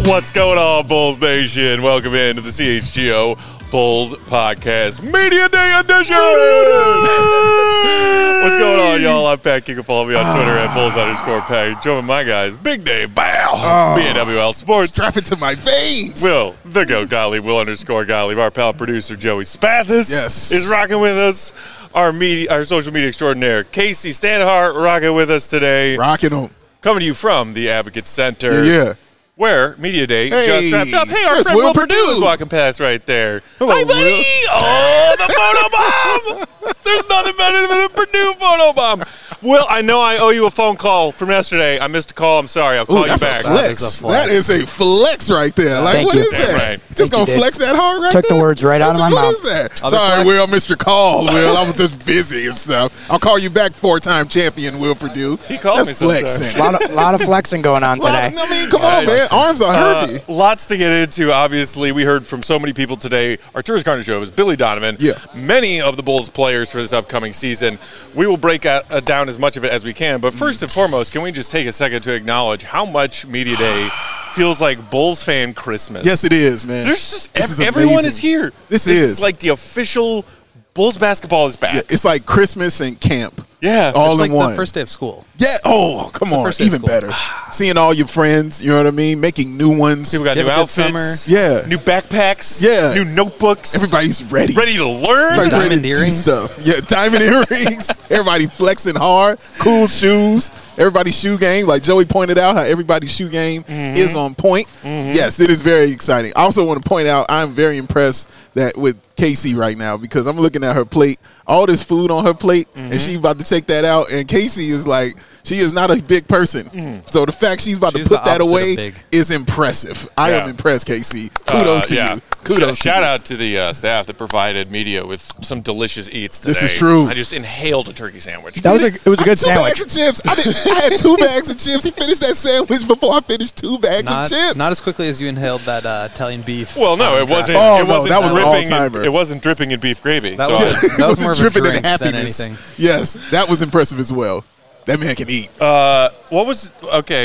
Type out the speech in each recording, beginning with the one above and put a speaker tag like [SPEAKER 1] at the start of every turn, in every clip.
[SPEAKER 1] What's going on, Bulls Nation? Welcome in to the CHGO Bulls Podcast Media Day Edition! What's going on, y'all? I'm Pat. You can follow me on Twitter at Bulls_Pat. Join my guys, Big Dave Bow, BNWL Sports.
[SPEAKER 2] Strap it to my veins.
[SPEAKER 1] Will, the GOAT Gottlieb, Will_Gottlieb. Our pal producer, Joey Spathis, is rocking with us. Our social media extraordinaire, Casey Standhart, rocking with us today.
[SPEAKER 2] Rocking them.
[SPEAKER 1] Coming to you from the Advocate Center.
[SPEAKER 2] Yeah.
[SPEAKER 1] Where Media Day just wrapped up. Hey, our friend Will Purdue is walking past right there.
[SPEAKER 2] Hello,
[SPEAKER 1] hi, buddy.
[SPEAKER 2] Will.
[SPEAKER 1] Oh, the photo bomb. There's nothing better than a Purdue photo bomb. Will, I know I owe you a phone call from yesterday. I missed a call. I'm sorry. I'll call you back.
[SPEAKER 2] That is a flex right there. Like,
[SPEAKER 3] Thank
[SPEAKER 2] what
[SPEAKER 3] you.
[SPEAKER 2] is that?
[SPEAKER 1] Right.
[SPEAKER 2] Just going to flex that hard right
[SPEAKER 3] Took
[SPEAKER 2] there?
[SPEAKER 3] the words right out of my
[SPEAKER 2] What
[SPEAKER 3] mouth.
[SPEAKER 2] is that? Sorry, Will, I missed your call, Will. I was just busy and stuff. I'll call you back, four-time champion Will Purdue.
[SPEAKER 1] He called
[SPEAKER 2] That's
[SPEAKER 1] me sometimes.
[SPEAKER 2] flexing.
[SPEAKER 3] lot of flexing going on today.
[SPEAKER 2] I mean, come on, man. Arms are heavy.
[SPEAKER 1] Lots to get into. Obviously, we heard from so many people today. Arturas Carter Show is Billy Donovan.
[SPEAKER 2] Yeah.
[SPEAKER 1] Many of the Bulls players for this upcoming season. We will break down as much of it as we can. But first and foremost, can we just take a second to acknowledge how much Media Day feels like Bulls fan Christmas?
[SPEAKER 2] Yes, it is, man.
[SPEAKER 1] There's
[SPEAKER 2] This
[SPEAKER 1] just
[SPEAKER 2] is
[SPEAKER 1] everyone
[SPEAKER 2] amazing.
[SPEAKER 1] is here.
[SPEAKER 2] This
[SPEAKER 1] is like the official Bulls basketball is back.
[SPEAKER 2] Yeah, it's like Christmas and camp.
[SPEAKER 1] Yeah.
[SPEAKER 2] All
[SPEAKER 4] It's
[SPEAKER 2] in
[SPEAKER 4] like
[SPEAKER 2] one.
[SPEAKER 4] the first day of school.
[SPEAKER 2] Yeah. Oh, come
[SPEAKER 4] the
[SPEAKER 2] on.
[SPEAKER 4] first day of
[SPEAKER 2] Even
[SPEAKER 4] school.
[SPEAKER 2] better. Seeing all your friends, you know what I mean? Making new ones.
[SPEAKER 1] People got
[SPEAKER 4] You
[SPEAKER 1] new
[SPEAKER 4] have a good
[SPEAKER 1] outfits.
[SPEAKER 4] summer.
[SPEAKER 2] Yeah.
[SPEAKER 1] New backpacks.
[SPEAKER 2] Yeah.
[SPEAKER 1] New notebooks.
[SPEAKER 2] Everybody's ready.
[SPEAKER 1] ready to learn.
[SPEAKER 2] Everybody's ready
[SPEAKER 4] Diamond
[SPEAKER 2] to do
[SPEAKER 4] earrings.
[SPEAKER 2] stuff. Yeah, diamond earrings. Everybody flexing hard. Cool shoes. Everybody's shoe game. Like Joey pointed out, how everybody's shoe game is on point. Yes, it is very exciting. I also want to point out I'm very impressed that with Casey right now because I'm looking at her plate, all this food on her plate, and she's about to take that out. And Casey is like, she is not a big person. So the fact she's about
[SPEAKER 4] She's
[SPEAKER 2] to put
[SPEAKER 4] the
[SPEAKER 2] that
[SPEAKER 4] opposite of
[SPEAKER 2] away
[SPEAKER 4] big.
[SPEAKER 2] is impressive. I
[SPEAKER 1] Yeah.
[SPEAKER 2] am impressed, Casey. Kudos to you. Kudos to
[SPEAKER 1] Shout
[SPEAKER 2] you.
[SPEAKER 1] out to the staff that provided media with some delicious eats today.
[SPEAKER 2] This is true.
[SPEAKER 1] I just inhaled a turkey sandwich.
[SPEAKER 3] It was a good
[SPEAKER 2] Two
[SPEAKER 3] sandwich.
[SPEAKER 2] bags of chips. I had 2 bags of chips. He finished that sandwich before I finished 2 bags of chips.
[SPEAKER 4] Not as quickly as you inhaled that Italian beef.
[SPEAKER 1] Well, no, it wasn't.
[SPEAKER 2] Oh,
[SPEAKER 1] it
[SPEAKER 2] no,
[SPEAKER 1] wasn't
[SPEAKER 2] that was
[SPEAKER 1] dripping.
[SPEAKER 2] all-timer.
[SPEAKER 1] It wasn't dripping in beef gravy.
[SPEAKER 4] That
[SPEAKER 1] so
[SPEAKER 4] was-
[SPEAKER 1] I-
[SPEAKER 4] That was more of a
[SPEAKER 2] dripping in
[SPEAKER 4] drink than
[SPEAKER 2] happiness.
[SPEAKER 4] anything.
[SPEAKER 2] Yes, that was impressive as well. That man can eat.
[SPEAKER 1] what was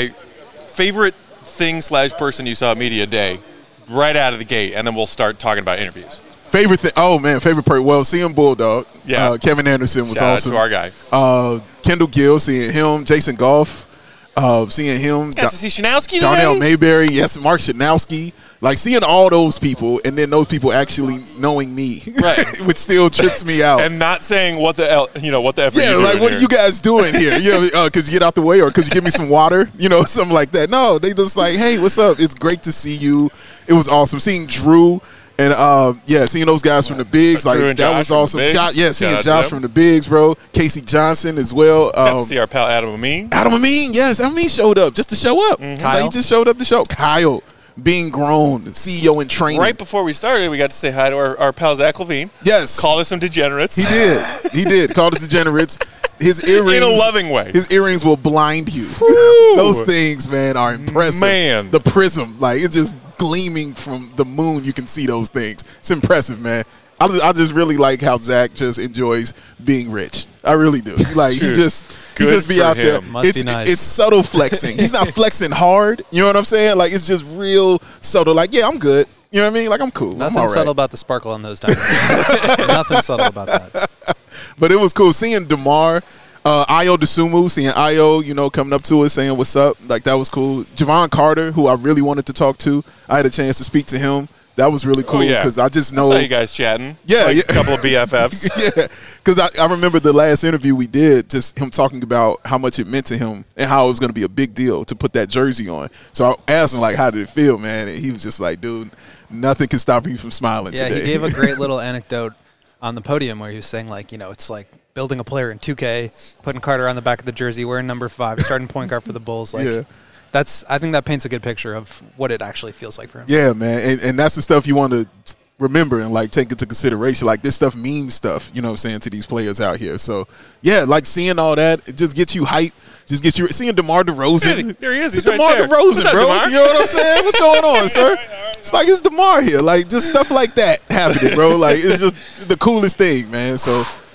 [SPEAKER 1] favorite thing / person you saw at Media Day right out of the gate, and then we'll start talking about interviews.
[SPEAKER 2] Favorite thing? Oh man, favorite part. Well, seeing Bulldog.
[SPEAKER 1] Yeah.
[SPEAKER 2] Kevin Anderson was
[SPEAKER 1] Shout
[SPEAKER 2] awesome.
[SPEAKER 1] out to our guy.
[SPEAKER 2] Kendall Gill, seeing him. Jason Goff, seeing him.
[SPEAKER 1] Got to see Shanowski
[SPEAKER 2] Darnell
[SPEAKER 1] today.
[SPEAKER 2] Mayberry, yes, Mark Shanowski. Like seeing all those people, and then those people actually knowing me,
[SPEAKER 1] Right.
[SPEAKER 2] which still trips me out.
[SPEAKER 1] And not saying what the F are
[SPEAKER 2] Yeah,
[SPEAKER 1] you
[SPEAKER 2] like
[SPEAKER 1] doing
[SPEAKER 2] what
[SPEAKER 1] here?
[SPEAKER 2] are you guys doing here? Could you get out the way, or could you give me some water? Something like that. No, they just like, hey, what's up? It's great to see you. It was awesome seeing Drew and seeing those guys from the Bigs.
[SPEAKER 1] Drew
[SPEAKER 2] Like
[SPEAKER 1] and
[SPEAKER 2] that
[SPEAKER 1] Josh
[SPEAKER 2] was
[SPEAKER 1] from the
[SPEAKER 2] awesome.
[SPEAKER 1] Bigs.
[SPEAKER 2] Seeing
[SPEAKER 1] Shout out to
[SPEAKER 2] Josh
[SPEAKER 1] them.
[SPEAKER 2] from the Bigs, bro. Casey Johnson as well.
[SPEAKER 1] Got to see our pal Adam Amin.
[SPEAKER 2] Adam Amin, yes, Amin showed up just to show up.
[SPEAKER 1] Mm-hmm.
[SPEAKER 2] Like, he just showed up to show. Kyle being grown, CEO in training.
[SPEAKER 1] Right before we started, we got to say hi to our pal Zach Levine.
[SPEAKER 2] Yes,
[SPEAKER 1] Called us some degenerates.
[SPEAKER 2] He did. He did. Called us degenerates. His earrings,
[SPEAKER 1] in a loving way.
[SPEAKER 2] His earrings will blind you. Those things, man, are impressive.
[SPEAKER 1] Man.
[SPEAKER 2] The prism, like it's just gleaming from the moon. You can see those things. It's impressive, man. I just really like how Zach just enjoys being rich. I really do. Like he
[SPEAKER 1] Dude,
[SPEAKER 2] just
[SPEAKER 1] good
[SPEAKER 2] be
[SPEAKER 1] for
[SPEAKER 2] out there.
[SPEAKER 1] him.
[SPEAKER 4] Must be nice.
[SPEAKER 2] It's subtle flexing. He's not flexing hard. You know what I'm saying? Like it's just real subtle. Like yeah, I'm good. You know what I mean? Like I'm cool. I'm
[SPEAKER 4] Nothing
[SPEAKER 2] all right.
[SPEAKER 4] subtle about the sparkle on those diamonds. Nothing subtle about that.
[SPEAKER 2] But it was cool seeing DeMar, Ayo Dosunmu, seeing Ayo, coming up to us saying what's up. Like that was cool. Javon Carter, who I really wanted to talk to, I had a chance to speak to him. That was really cool because I just know.
[SPEAKER 1] I saw you guys chatting.
[SPEAKER 2] Yeah,
[SPEAKER 1] Like
[SPEAKER 2] yeah.
[SPEAKER 1] a couple of BFFs.
[SPEAKER 2] Yeah, because I remember the last interview we did, just him talking about how much it meant to him and how it was going to be a big deal to put that jersey on. So I asked him, like, how did it feel, man? And he was just like, dude, nothing can stop you from smiling
[SPEAKER 4] Yeah,
[SPEAKER 2] today.
[SPEAKER 4] he gave a great little anecdote on the podium where he was saying, like, it's like building a player in 2K, putting Carter on the back of the jersey, wearing number 5, starting point guard for the Bulls. Like,
[SPEAKER 2] Yeah.
[SPEAKER 4] I think that paints a good picture of what it actually feels like for him.
[SPEAKER 2] Yeah, man. And that's the stuff you want to remember and, like, take into consideration. Like, this stuff means stuff, you know what I'm saying, to these players out here. So, yeah, like, seeing all that, it just gets you hype. Just gets you seeing DeMar DeRozan.
[SPEAKER 1] Yeah, there he is. He's
[SPEAKER 2] It's
[SPEAKER 1] right
[SPEAKER 2] DeMar
[SPEAKER 1] there.
[SPEAKER 2] DeRozan,
[SPEAKER 1] What's up,
[SPEAKER 2] bro.
[SPEAKER 1] DeMar?
[SPEAKER 2] You know what I'm saying? What's going on, sir? It's like it's DeMar here. Like, just stuff like that happening, bro. Like, it's just the coolest thing, man. So,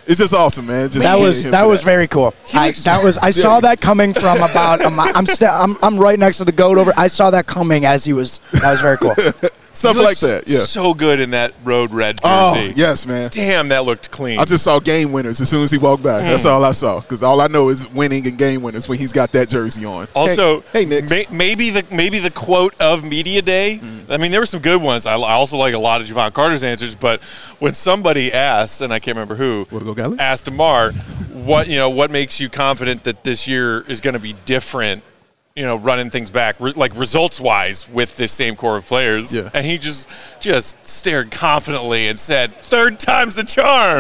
[SPEAKER 2] It's just awesome, man. Just
[SPEAKER 3] That was
[SPEAKER 2] him for
[SPEAKER 3] was very cool. I saw that coming from about. I'm right next to the goat over. I saw that coming as he was. That was very cool.
[SPEAKER 2] Stuff like that, yeah.
[SPEAKER 1] So good in that road red jersey.
[SPEAKER 2] Oh, yes, man.
[SPEAKER 1] Damn, that looked clean.
[SPEAKER 2] I just saw game winners as soon as he walked by. That's all I saw. Because all I know is winning and game winners when he's got that jersey on.
[SPEAKER 1] Also,
[SPEAKER 2] hey Knicks.
[SPEAKER 1] maybe the quote of Media Day. I mean, there were some good ones. I also like a lot of Javon Carter's answers. But when somebody asked, and I can't remember who, asked DeMar, what makes you confident that this year is going to be different? Running things back, like results-wise, with this same core of players.
[SPEAKER 2] Yeah.
[SPEAKER 1] And he just stared confidently and said, "Third time's the charm."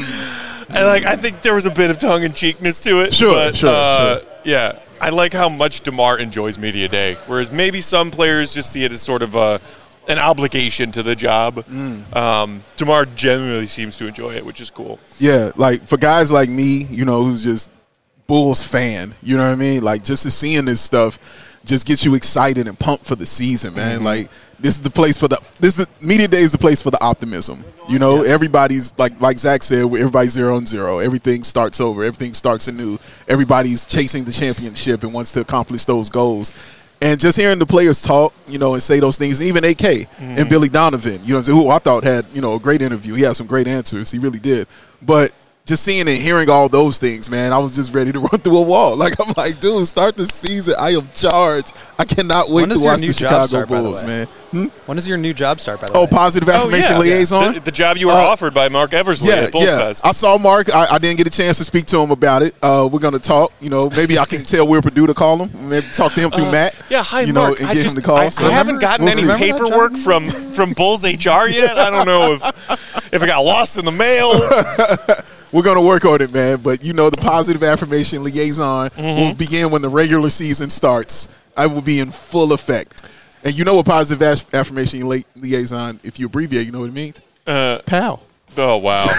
[SPEAKER 1] And I think there was a bit of tongue-in-cheekness to it.
[SPEAKER 2] Sure.
[SPEAKER 1] Yeah, I like how much DeMar enjoys Media Day, whereas maybe some players just see it as sort of an obligation to the job. DeMar generally seems to enjoy it, which is cool.
[SPEAKER 2] Yeah, like for guys like me, who's just Bulls fan, you know what I mean? Like just to seeing this stuff just gets you excited and pumped for the season, man. Like this is the place Media Day is the place for the optimism. Everybody's like Zach said, everybody's 0-0. Everything starts over. Everything starts anew. Everybody's chasing the championship and wants to accomplish those goals. And just hearing the players talk, and say those things, and even AK and Billy Donovan, who I thought had, a great interview. He had some great answers. He really did. But just seeing and hearing all those things, man, I was just ready to run through a wall. I'm like, dude, start the season. I am charged. I cannot wait to watch the Chicago Bulls, man.
[SPEAKER 4] When does your new job start, by the way?
[SPEAKER 2] Oh, positive affirmation liaison?
[SPEAKER 1] The job you were offered by Mark Eversley at Bulls Fest.
[SPEAKER 2] I saw Mark. I didn't get a chance to speak to him about it. We're going to talk. Maybe I can tell Will Perdue to call him. Maybe talk to him through Matt.
[SPEAKER 1] Yeah, hi, Mark.
[SPEAKER 2] And get him to call.
[SPEAKER 1] I haven't gotten any paperwork from Bulls HR yet. I don't know if it got lost in the mail.
[SPEAKER 2] We're going to work on it, man. But, the positive affirmation liaison will begin when the regular season starts. I will be in full effect. And you know what positive affirmation liaison, if you abbreviate, you know what it means? Pal.
[SPEAKER 1] Oh, wow.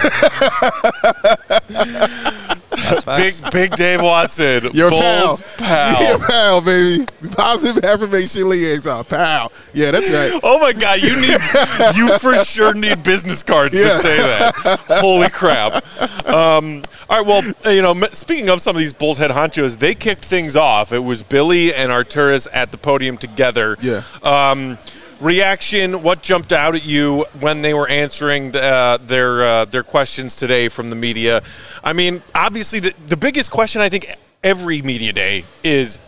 [SPEAKER 1] Big Dave Watson.
[SPEAKER 2] Your
[SPEAKER 1] Bulls pal.
[SPEAKER 2] Your pal, baby. Positive affirmation liaison. Pal. Yeah, that's right.
[SPEAKER 1] Oh, my God. You for sure need business cards to say that. Holy crap. All right, well, speaking of some of these Bulls head honchos, they kicked things off. It was Billy and Arturas at the podium together.
[SPEAKER 2] Yeah.
[SPEAKER 1] Reaction, what jumped out at you when they were answering their questions today from the media? I mean, obviously, the biggest question I think every media day is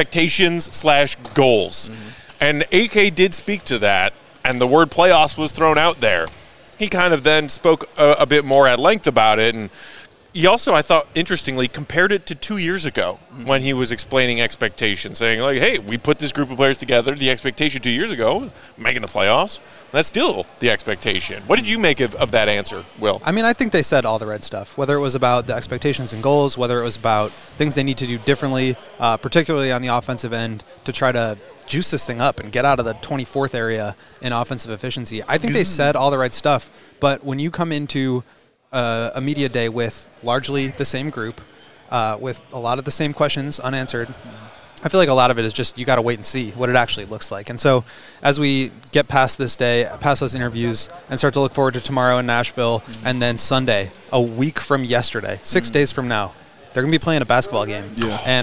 [SPEAKER 1] expectations/goals. And AK did speak to that, and the word playoffs was thrown out there. He kind of then spoke a bit more at length about it, and he also, I thought, interestingly, compared it to 2 years ago when he was explaining expectations, saying, hey, we put this group of players together. The expectation 2 years ago was making the playoffs. That's still the expectation. What did you make of that answer, Will?
[SPEAKER 4] I mean, I think they said all the right stuff, whether it was about the expectations and goals, whether it was about things they need to do differently, particularly on the offensive end, to try to juice this thing up and get out of the 24th area in offensive efficiency. I think they said all the right stuff, but when you come into a media day with largely the same group, with a lot of the same questions unanswered, I feel like a lot of it is just you got to wait and see what it actually looks like. And so as we get past this day, past those interviews, and start to look forward to tomorrow in Nashville, and then Sunday, a week from yesterday, 6 days from now, they're going to be playing a basketball game.
[SPEAKER 2] Yeah.
[SPEAKER 4] And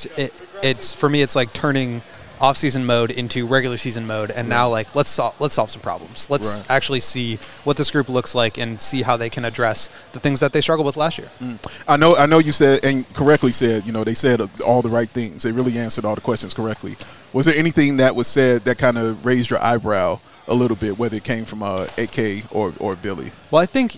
[SPEAKER 4] it's for me, it's like turning off-season mode into regular season mode, and now let's solve some problems. Let's actually see what this group looks like and see how they can address the things that they struggled with last year.
[SPEAKER 2] I know you said, and correctly said, they said all the right things. They really answered all the questions correctly. Was there anything that was said that kind of raised your eyebrow a little bit, whether it came from AK or Billy?
[SPEAKER 4] Well, I think,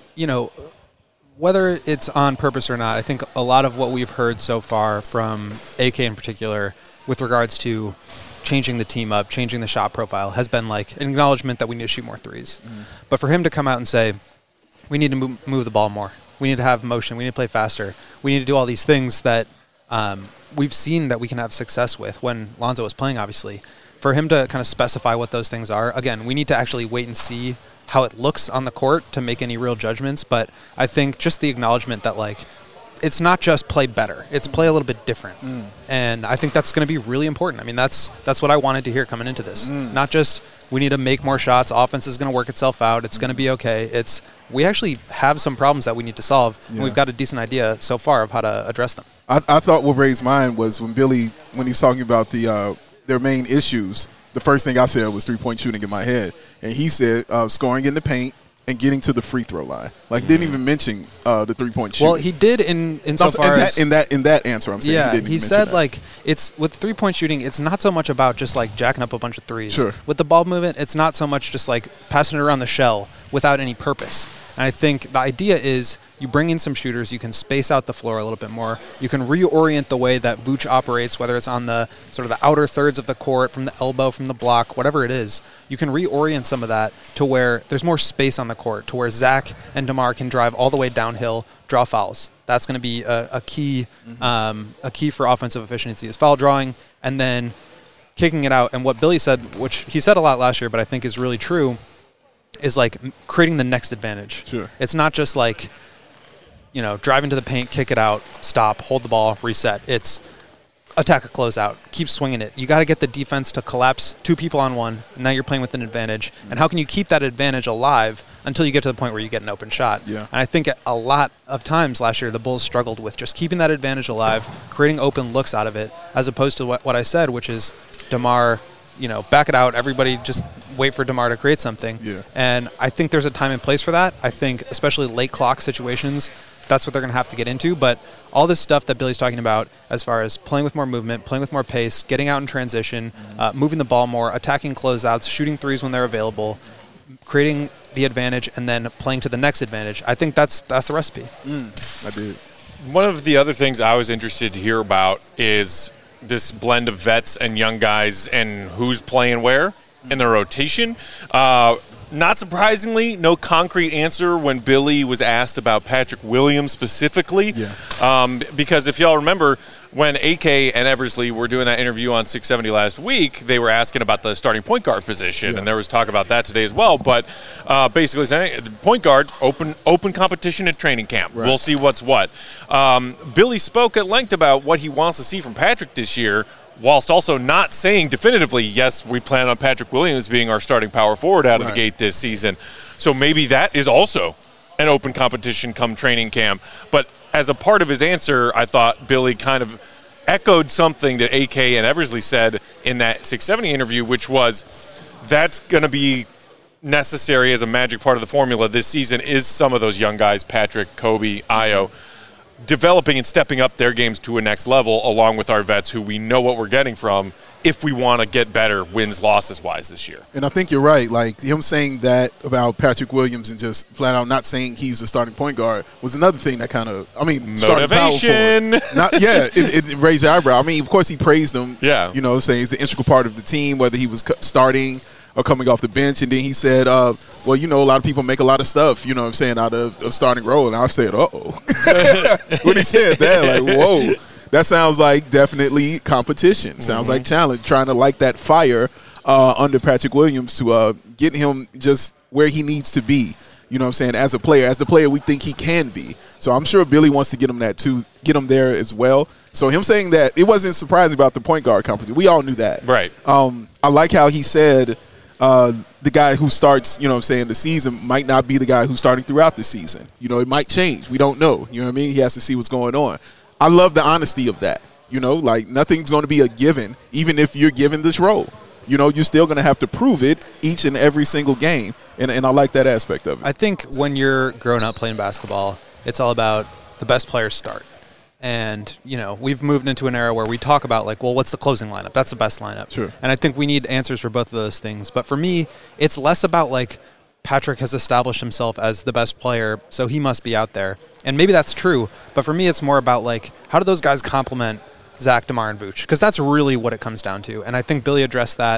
[SPEAKER 4] whether it's on purpose or not, I think a lot of what we've heard so far from AK in particular with regards to changing the team up, changing the shot profile, has been like an acknowledgement that we need to shoot more threes. But for him to come out and say, we need to move the ball more, we need to have motion, we need to play faster, we need to do all these things that we've seen that we can have success with when Lonzo was playing, obviously. For him to kind of specify what those things are, again, we need to actually wait and see how it looks on the court to make any real judgments. But I think just the acknowledgement that, it's not just play better, it's play a little bit different. And I think that's going to be really important. I mean, that's what I wanted to hear coming into this. Not just We need to make more shots. Offense is going to work itself out. It's going to be okay. We actually have some problems that we need to solve, and we've got a decent idea so far of how to address them.
[SPEAKER 2] I thought what raised mine was when Billy, when he was talking about their main issues, the first thing I said was three-point shooting in my head. And he said scoring in the paint and getting to the free throw line. Like, he didn't even mention the three-point shooting.
[SPEAKER 4] Well, he did in so far as
[SPEAKER 2] in that answer. I'm saying he didn't
[SPEAKER 4] he
[SPEAKER 2] even
[SPEAKER 4] said
[SPEAKER 2] mention that.
[SPEAKER 4] like it's with three-point shooting. It's not so much about just like jacking up a bunch of threes.
[SPEAKER 2] Sure.
[SPEAKER 4] With the ball movement, it's not so much just like passing it around the shell without any purpose. And I think the idea is you bring in some shooters, you can space out the floor a little bit more. You can reorient the way that Vooch operates, whether it's on the sort of the outer thirds of the court, from the elbow, from the block, whatever it is. You can reorient some of that to where there's more space on the court, to where Zach and DeMar can drive all the way downhill, draw fouls. That's going to be a key for offensive efficiency is foul drawing and then kicking it out. And what Billy said, which he said a lot last year, but I think is really true, is like creating the next advantage.
[SPEAKER 2] Sure.
[SPEAKER 4] It's not just like, driving to the paint, kick it out, stop, hold the ball, reset. It's attack a closeout, keep swinging it. You got to get the defense to collapse 2 people on 1. And now you're playing with an advantage. And how can you keep that advantage alive until you get to the point where you get an open shot?
[SPEAKER 2] Yeah.
[SPEAKER 4] And I think a lot of times last year the Bulls struggled with just keeping that advantage alive, creating open looks out of it, as opposed to what I said, which is DeMar, back it out. Everybody just wait for DeMar to create something.
[SPEAKER 2] Yeah.
[SPEAKER 4] And I think there's a time and place for that. I think especially late clock situations, that's what they're going to have to get into. But all this stuff that Billy's talking about as far as playing with more movement, playing with more pace, getting out in transition, moving the ball more, attacking closeouts, shooting threes when they're available, creating the advantage, and then playing to the next advantage. I think that's the recipe.
[SPEAKER 2] I did.
[SPEAKER 1] One of the other things I was interested to hear about is this blend of vets and young guys and who's playing where in the rotation. Not surprisingly, no concrete answer when Billy was asked about Patrick Williams specifically.
[SPEAKER 2] Yeah.
[SPEAKER 1] Because if y'all remember, when AK and Eversley were doing that interview on 670 last week, they were asking about the starting point guard position, and there was talk about that today as well. But basically saying, point guard, open competition at training camp. Right. We'll see what's what. Billy spoke at length about what he wants to see from Patrick this year, whilst also not saying definitively, yes, we plan on Patrick Williams being our starting power forward out of the gate this season. So maybe that is also an open competition come training camp. But as a part of his answer, I thought Billy kind of echoed something that AK and Eversley said in that 670 interview, which was that's going to be necessary as a magic part of the formula this season is some of those young guys, Patrick, Kobe, Ayo, developing and stepping up their games to a next level along with our vets who we know what we're getting from if we want to get better wins, losses wise this year.
[SPEAKER 2] And I think you're right. Like, him saying that about Patrick Williams and just flat out not saying he's the starting point guard was another thing that kind of,
[SPEAKER 1] motivation.
[SPEAKER 2] It raised your eyebrow. I mean, of course he praised him.
[SPEAKER 1] Yeah.
[SPEAKER 2] Saying he's the integral part of the team, whether he was starting or coming off the bench. And then he said, a lot of people make a lot of stuff, out of starting role. And I said, uh-oh. When he said that, like, whoa. That sounds like definitely competition. Sounds like challenge, trying to light that fire under Patrick Williams to get him just where he needs to be, as a player, as the player we think he can be. So I'm sure Billy wants to get him that too, get him there as well. So him saying that, it wasn't surprising about the point guard competition. We all knew that.
[SPEAKER 1] Right.
[SPEAKER 2] I like how he said the guy who starts, the season might not be the guy who's starting throughout the season. It might change. We don't know. You know what I mean? He has to see what's going on. I love the honesty of that. Like nothing's going to be a given, even if you're given this role. You're still going to have to prove it each and every single game. And I like that aspect of it.
[SPEAKER 4] I think when you're growing up playing basketball, it's all about the best players start. And, we've moved into an era where we talk about, like, well, what's the closing lineup? That's the best lineup.
[SPEAKER 2] Sure.
[SPEAKER 4] And I think we need answers for both of those things. But for me, it's less about, like, Patrick has established himself as the best player, so he must be out there. And maybe that's true. But for me, it's more about, like, how do those guys complement Zach, DeMar, and Vooch? Because that's really what it comes down to. And I think Billy addressed that.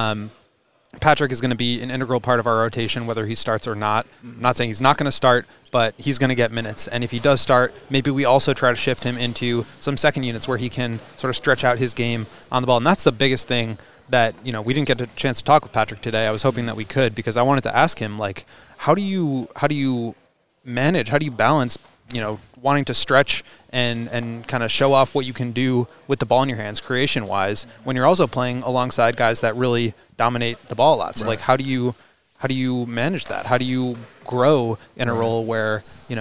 [SPEAKER 4] Patrick is going to be an integral part of our rotation, whether he starts or not. I'm not saying he's not going to start, but he's going to get minutes. And if he does start, maybe we also try to shift him into some second units where he can sort of stretch out his game on the ball. And that's the biggest thing that, we didn't get a chance to talk with Patrick today. I was hoping that we could, because I wanted to ask him, like, how do you manage, how do you balance wanting to stretch and kind of show off what you can do with the ball in your hands creation-wise when you're also playing alongside guys that really dominate the ball a lot. So, how do you manage that? How do you grow in a role where,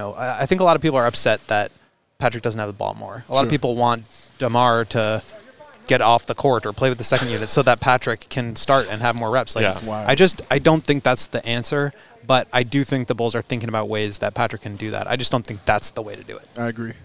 [SPEAKER 4] I think a lot of people are upset that Patrick doesn't have the ball more. A lot of people want DeMar to get off the court or play with the second unit so that Patrick can start and have more reps. I don't think that's the answer, but I do think the Bulls are thinking about ways that Patrick can do that. I just don't think that's the way to do it.
[SPEAKER 2] I agree.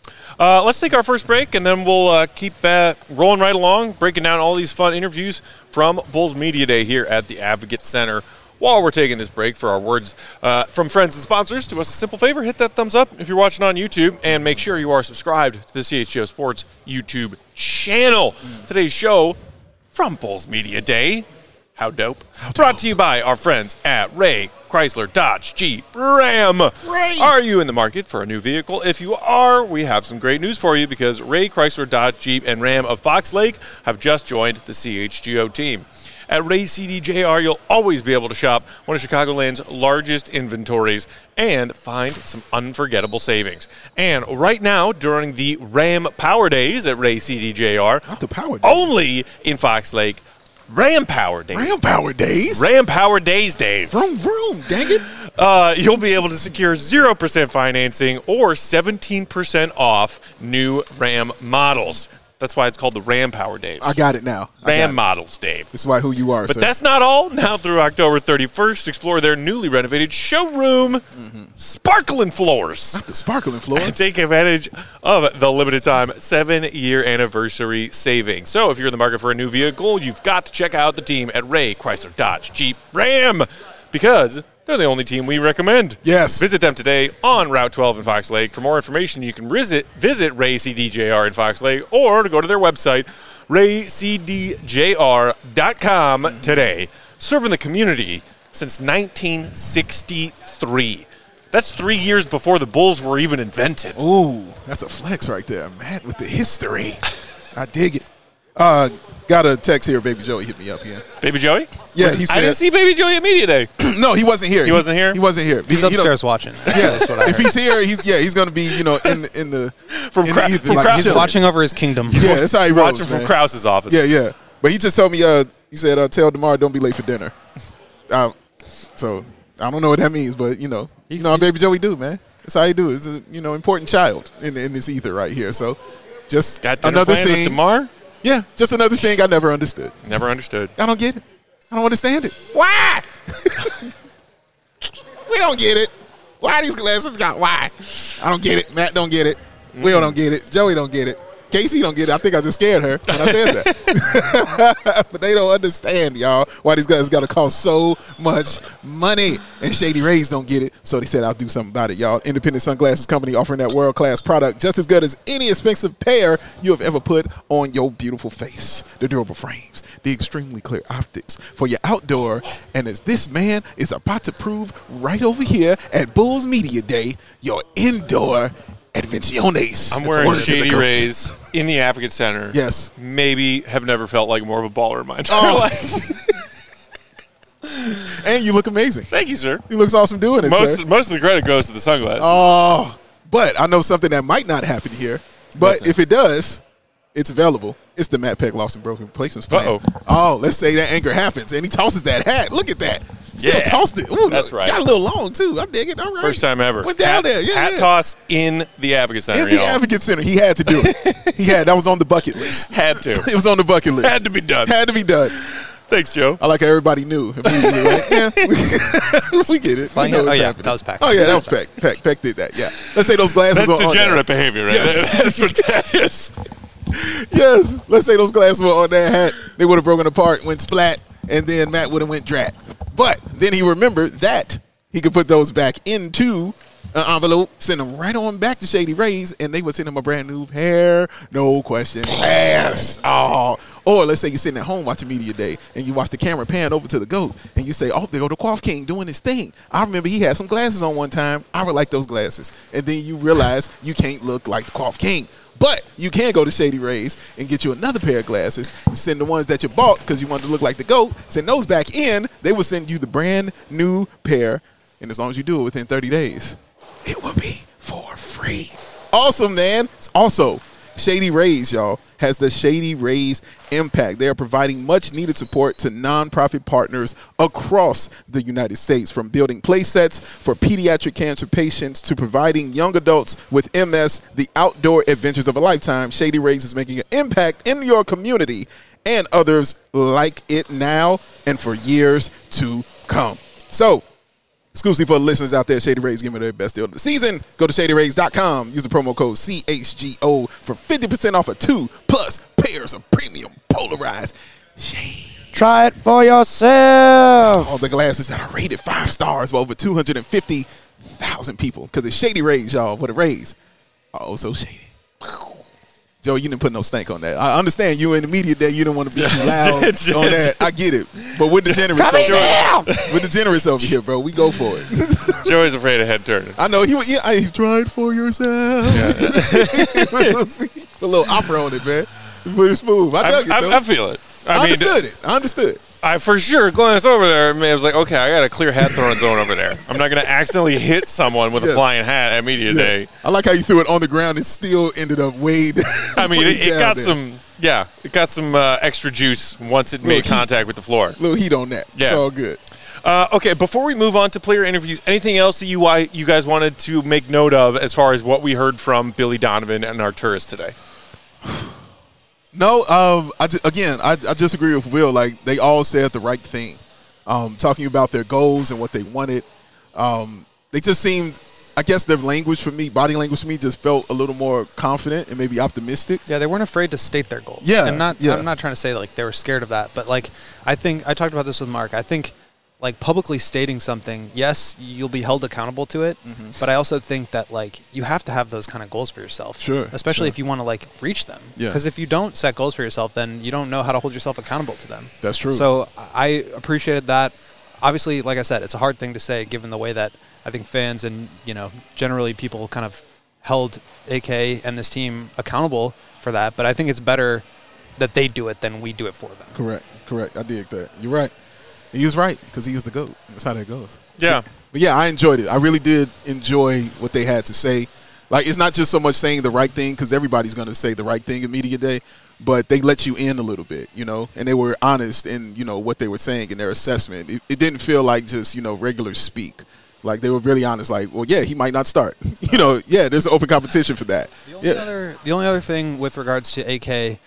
[SPEAKER 1] Let's take our first break, and then we'll keep rolling right along, breaking down all these fun interviews from Bulls Media Day here at the Advocate Center. While we're taking this break for our words from friends and sponsors, do us a simple favor, hit that thumbs up if you're watching on YouTube, and make sure you are subscribed to the CHGO Sports YouTube channel. Today's show from Bulls Media Day. How dope. Brought to you by our friends at Ray Chrysler Dodge Jeep Ram.
[SPEAKER 2] Ray.
[SPEAKER 1] Are you in the market for a new vehicle? If you are, we have some great news for you because Ray Chrysler Dodge Jeep and Ram of Fox Lake have just joined the CHGO team. At Ray CDJR, you'll always be able to shop one of Chicagoland's largest inventories and find some unforgettable savings. And right now, during the Ram Power Days at Ray CDJR,
[SPEAKER 2] Not the Power Days.
[SPEAKER 1] only in Fox Lake, Ram Power Days.
[SPEAKER 2] Ram Power Days?
[SPEAKER 1] Ram Power Days, Dave.
[SPEAKER 2] Vroom, vroom. Dang it.
[SPEAKER 1] You'll be able to secure 0% financing or 17% off new Ram models. That's why it's called the Ram Power Days.
[SPEAKER 2] I got it now.
[SPEAKER 1] Ram models, Dave.
[SPEAKER 2] This is why who you are,
[SPEAKER 1] But
[SPEAKER 2] sir.
[SPEAKER 1] that's not all. Now through October 31st, explore their newly renovated showroom, sparkling floors.
[SPEAKER 2] Not the sparkling floor.
[SPEAKER 1] Take advantage of the limited time 7-year anniversary savings. So if you're in the market for a new vehicle, you've got to check out the team at Ray Chrysler Dodge Jeep Ram because they're the only team we recommend.
[SPEAKER 2] Yes.
[SPEAKER 1] Visit them today on Route 12 in Fox Lake. For more information, you can visit Ray CDJR in Fox Lake or to go to their website, raycdjr.com today. Serving the community since 1963. That's 3 years before the Bulls were even invented.
[SPEAKER 2] Ooh, that's a flex right there. Matt with the history. I dig it. Got a text here. Baby Joey hit me up here.
[SPEAKER 1] Baby Joey?
[SPEAKER 2] Yeah, he said.
[SPEAKER 1] I didn't see Baby Joey at Media Day.
[SPEAKER 2] No, he wasn't here.
[SPEAKER 1] He wasn't here?
[SPEAKER 2] He wasn't here.
[SPEAKER 4] He's upstairs watching.
[SPEAKER 2] Yeah,
[SPEAKER 4] That's what I
[SPEAKER 2] if
[SPEAKER 4] heard.
[SPEAKER 2] he's here, he's going to be in the
[SPEAKER 1] From
[SPEAKER 2] in
[SPEAKER 1] Krau-
[SPEAKER 2] the ether,
[SPEAKER 1] from
[SPEAKER 2] like,
[SPEAKER 1] Krau-
[SPEAKER 2] he's
[SPEAKER 4] He's watching over his kingdom.
[SPEAKER 2] Yeah, that's how he rolls,
[SPEAKER 1] Watching from
[SPEAKER 2] man.
[SPEAKER 1] Krause's office.
[SPEAKER 2] Yeah. But he just told me. He said, "Tell DeMar don't be late for dinner." So I don't know what that means, but how Baby Joey do, man. That's how he do. It's a important child in this ether right here. So just
[SPEAKER 1] Got dinner
[SPEAKER 2] another
[SPEAKER 1] plans with
[SPEAKER 2] thing.
[SPEAKER 1] DeMar?
[SPEAKER 2] Yeah, just another thing I never understood.
[SPEAKER 1] Never understood.
[SPEAKER 2] I don't get it. I don't understand it. Why? We don't get it. Why these glasses got why? I don't get it. Matt don't get it. Will don't get it. Joey don't get it. Casey don't get it. I think I just scared her when I said that. But they don't understand, y'all, why these guys got to cost so much money. And Shady Rays don't get it, so they said I'll do something about it, y'all. Independent sunglasses company offering that world-class product just as good as any expensive pair you have ever put on your beautiful face. The durable frames, the extremely clear optics for your outdoor, and as this man is about to prove right over here at Bulls Media Day, your indoor Advenciones.
[SPEAKER 1] I'm
[SPEAKER 2] That's
[SPEAKER 1] wearing
[SPEAKER 2] words to the
[SPEAKER 1] Shady
[SPEAKER 2] goat.
[SPEAKER 1] Rays in the Advocate Center.
[SPEAKER 2] Yes.
[SPEAKER 1] Maybe have never felt like more of a baller in my entire life.
[SPEAKER 2] And you look amazing.
[SPEAKER 1] Thank you, sir.
[SPEAKER 2] He looks awesome doing it, sir.
[SPEAKER 1] Most of the credit goes to the sunglasses.
[SPEAKER 2] Oh, but I know something that might not happen here. But
[SPEAKER 1] Listen.
[SPEAKER 2] if it does, it's available. It's the Matt Peck Lost and Broken Replacements plan.
[SPEAKER 1] Uh-oh.
[SPEAKER 2] Oh, let's say that anger happens, and he tosses that hat. Look at that. Still
[SPEAKER 1] Yeah.
[SPEAKER 2] tossed it. Ooh,
[SPEAKER 1] That's right.
[SPEAKER 2] Got a little long, too. I dig it. All right.
[SPEAKER 1] First time ever.
[SPEAKER 2] Went down there. Yeah,
[SPEAKER 1] hat
[SPEAKER 2] yeah.
[SPEAKER 1] toss in the Advocate Center,
[SPEAKER 2] In the
[SPEAKER 1] y'all.
[SPEAKER 2] Advocate Center. He had to do it. That was on the bucket list.
[SPEAKER 1] Had to.
[SPEAKER 2] It was on the bucket list.
[SPEAKER 1] Had to be done.
[SPEAKER 2] Had to be done.
[SPEAKER 1] Thanks, Joe.
[SPEAKER 2] I like how everybody knew immediately, right? Yeah, we get it. We know
[SPEAKER 4] Oh,
[SPEAKER 2] what's
[SPEAKER 4] yeah,
[SPEAKER 2] happening.
[SPEAKER 4] that was Peck.
[SPEAKER 2] Oh, yeah, that was Peck. Peck did that, yeah. Let's say those glasses
[SPEAKER 1] That's
[SPEAKER 2] were on
[SPEAKER 1] degenerate
[SPEAKER 2] there.
[SPEAKER 1] behavior, right?
[SPEAKER 2] Yes.
[SPEAKER 1] That's what that is.
[SPEAKER 2] Yes. Let's say those glasses were on that hat. They would have broken apart, went splat, and then Matt would have went drat. But then he remembered that he could put those back into an envelope, send them right on back to Shady Rays, and they would send him a brand new pair. No question asked. Oh. Or let's say you're sitting at home watching Media Day, and you watch the camera pan over to the GOAT, and you say, oh, there go the Quaff King doing his thing. I remember he had some glasses on one time. I would like those glasses. And then you realize you can't look like the Quaff King. But you can go to Shady Rays and get you another pair of glasses and send the ones that you bought because you wanted to look like the GOAT, send those back in. They will send you the brand new pair, and as long as you do it within 30 days, it will be for free. great. Awesome, man. Also, Shady Rays, y'all, has the Shady Rays Impact. They are providing much-needed support to nonprofit partners across the United States, from building play sets for pediatric cancer patients to providing young adults with MS the outdoor adventures of a lifetime. Shady Rays is making an impact in your community and others like it now and for years to come. So, exclusively for the listeners out there, Shady Rays giving their best deal of the season. Go to ShadyRays.com. Use the promo code CHGO for 50% off of 2+ pairs of premium polarized shades.
[SPEAKER 3] Try it for yourself.
[SPEAKER 2] All the glasses that are rated 5 stars by over 250,000 people. Because it's Shady Rays, y'all. What a Rays. Oh, so shady. Joe, you didn't put no stank on that. I understand you in the media day. You don't want to be too loud on that. I get it. But with the generous over here, bro, we go for it.
[SPEAKER 1] Joey's afraid of head turning.
[SPEAKER 2] I know. He tried for yourself. Yeah. A little opera on it, man. Pretty smooth. I dug it, though.
[SPEAKER 1] I feel it. I
[SPEAKER 2] understood.
[SPEAKER 1] I for sure glanced over there and I was like, okay, I got a clear hat throwing zone over there. I'm not going to accidentally hit someone with a flying hat at media day.
[SPEAKER 2] I like how you threw it on the ground and still ended up way down.
[SPEAKER 1] I mean, it got some extra juice once it made contact with the floor.
[SPEAKER 2] Little heat on that. Yeah. It's all good.
[SPEAKER 1] Okay, before we move on to player interviews, anything else that you guys wanted to make note of as far as what we heard from Billy Donovan and Arturas today?
[SPEAKER 2] No, I just agree with Will. Like, they all said the right thing, talking about their goals and what they wanted. They just seemed, I guess their language for me, body language for me, just felt a little more confident and maybe optimistic.
[SPEAKER 4] Yeah, they weren't afraid to state their goals.
[SPEAKER 2] Yeah,
[SPEAKER 4] and I'm not trying to say like they were scared of that, but like I think I talked about this with Mark. I think like publicly stating something, yes, you'll be held accountable to it, but I also think that like you have to have those kind of goals for yourself.
[SPEAKER 2] Sure.
[SPEAKER 4] Especially if you want to like reach them.
[SPEAKER 2] Yeah.
[SPEAKER 4] Because if you don't set goals for yourself, then you don't know how to hold yourself accountable to them.
[SPEAKER 2] That's true.
[SPEAKER 4] So I appreciated that. Obviously, like I said, it's a hard thing to say given the way that I think fans and, generally people kind of held AK and this team accountable for that. But I think it's better that they do it than we do it for them.
[SPEAKER 2] Correct. I dig that. You're right. He was right because he was the GOAT. That's how that goes.
[SPEAKER 1] Yeah.
[SPEAKER 2] But yeah, I enjoyed it. I really did enjoy what they had to say. Like, it's not just so much saying the right thing because everybody's going to say the right thing in media day, but they let you in a little bit, and they were honest in, what they were saying in their assessment. It didn't feel like just, regular speak. Like, they were really honest, like, well, yeah, he might not start. There's an open competition for that.
[SPEAKER 4] The only other thing with regards to AK,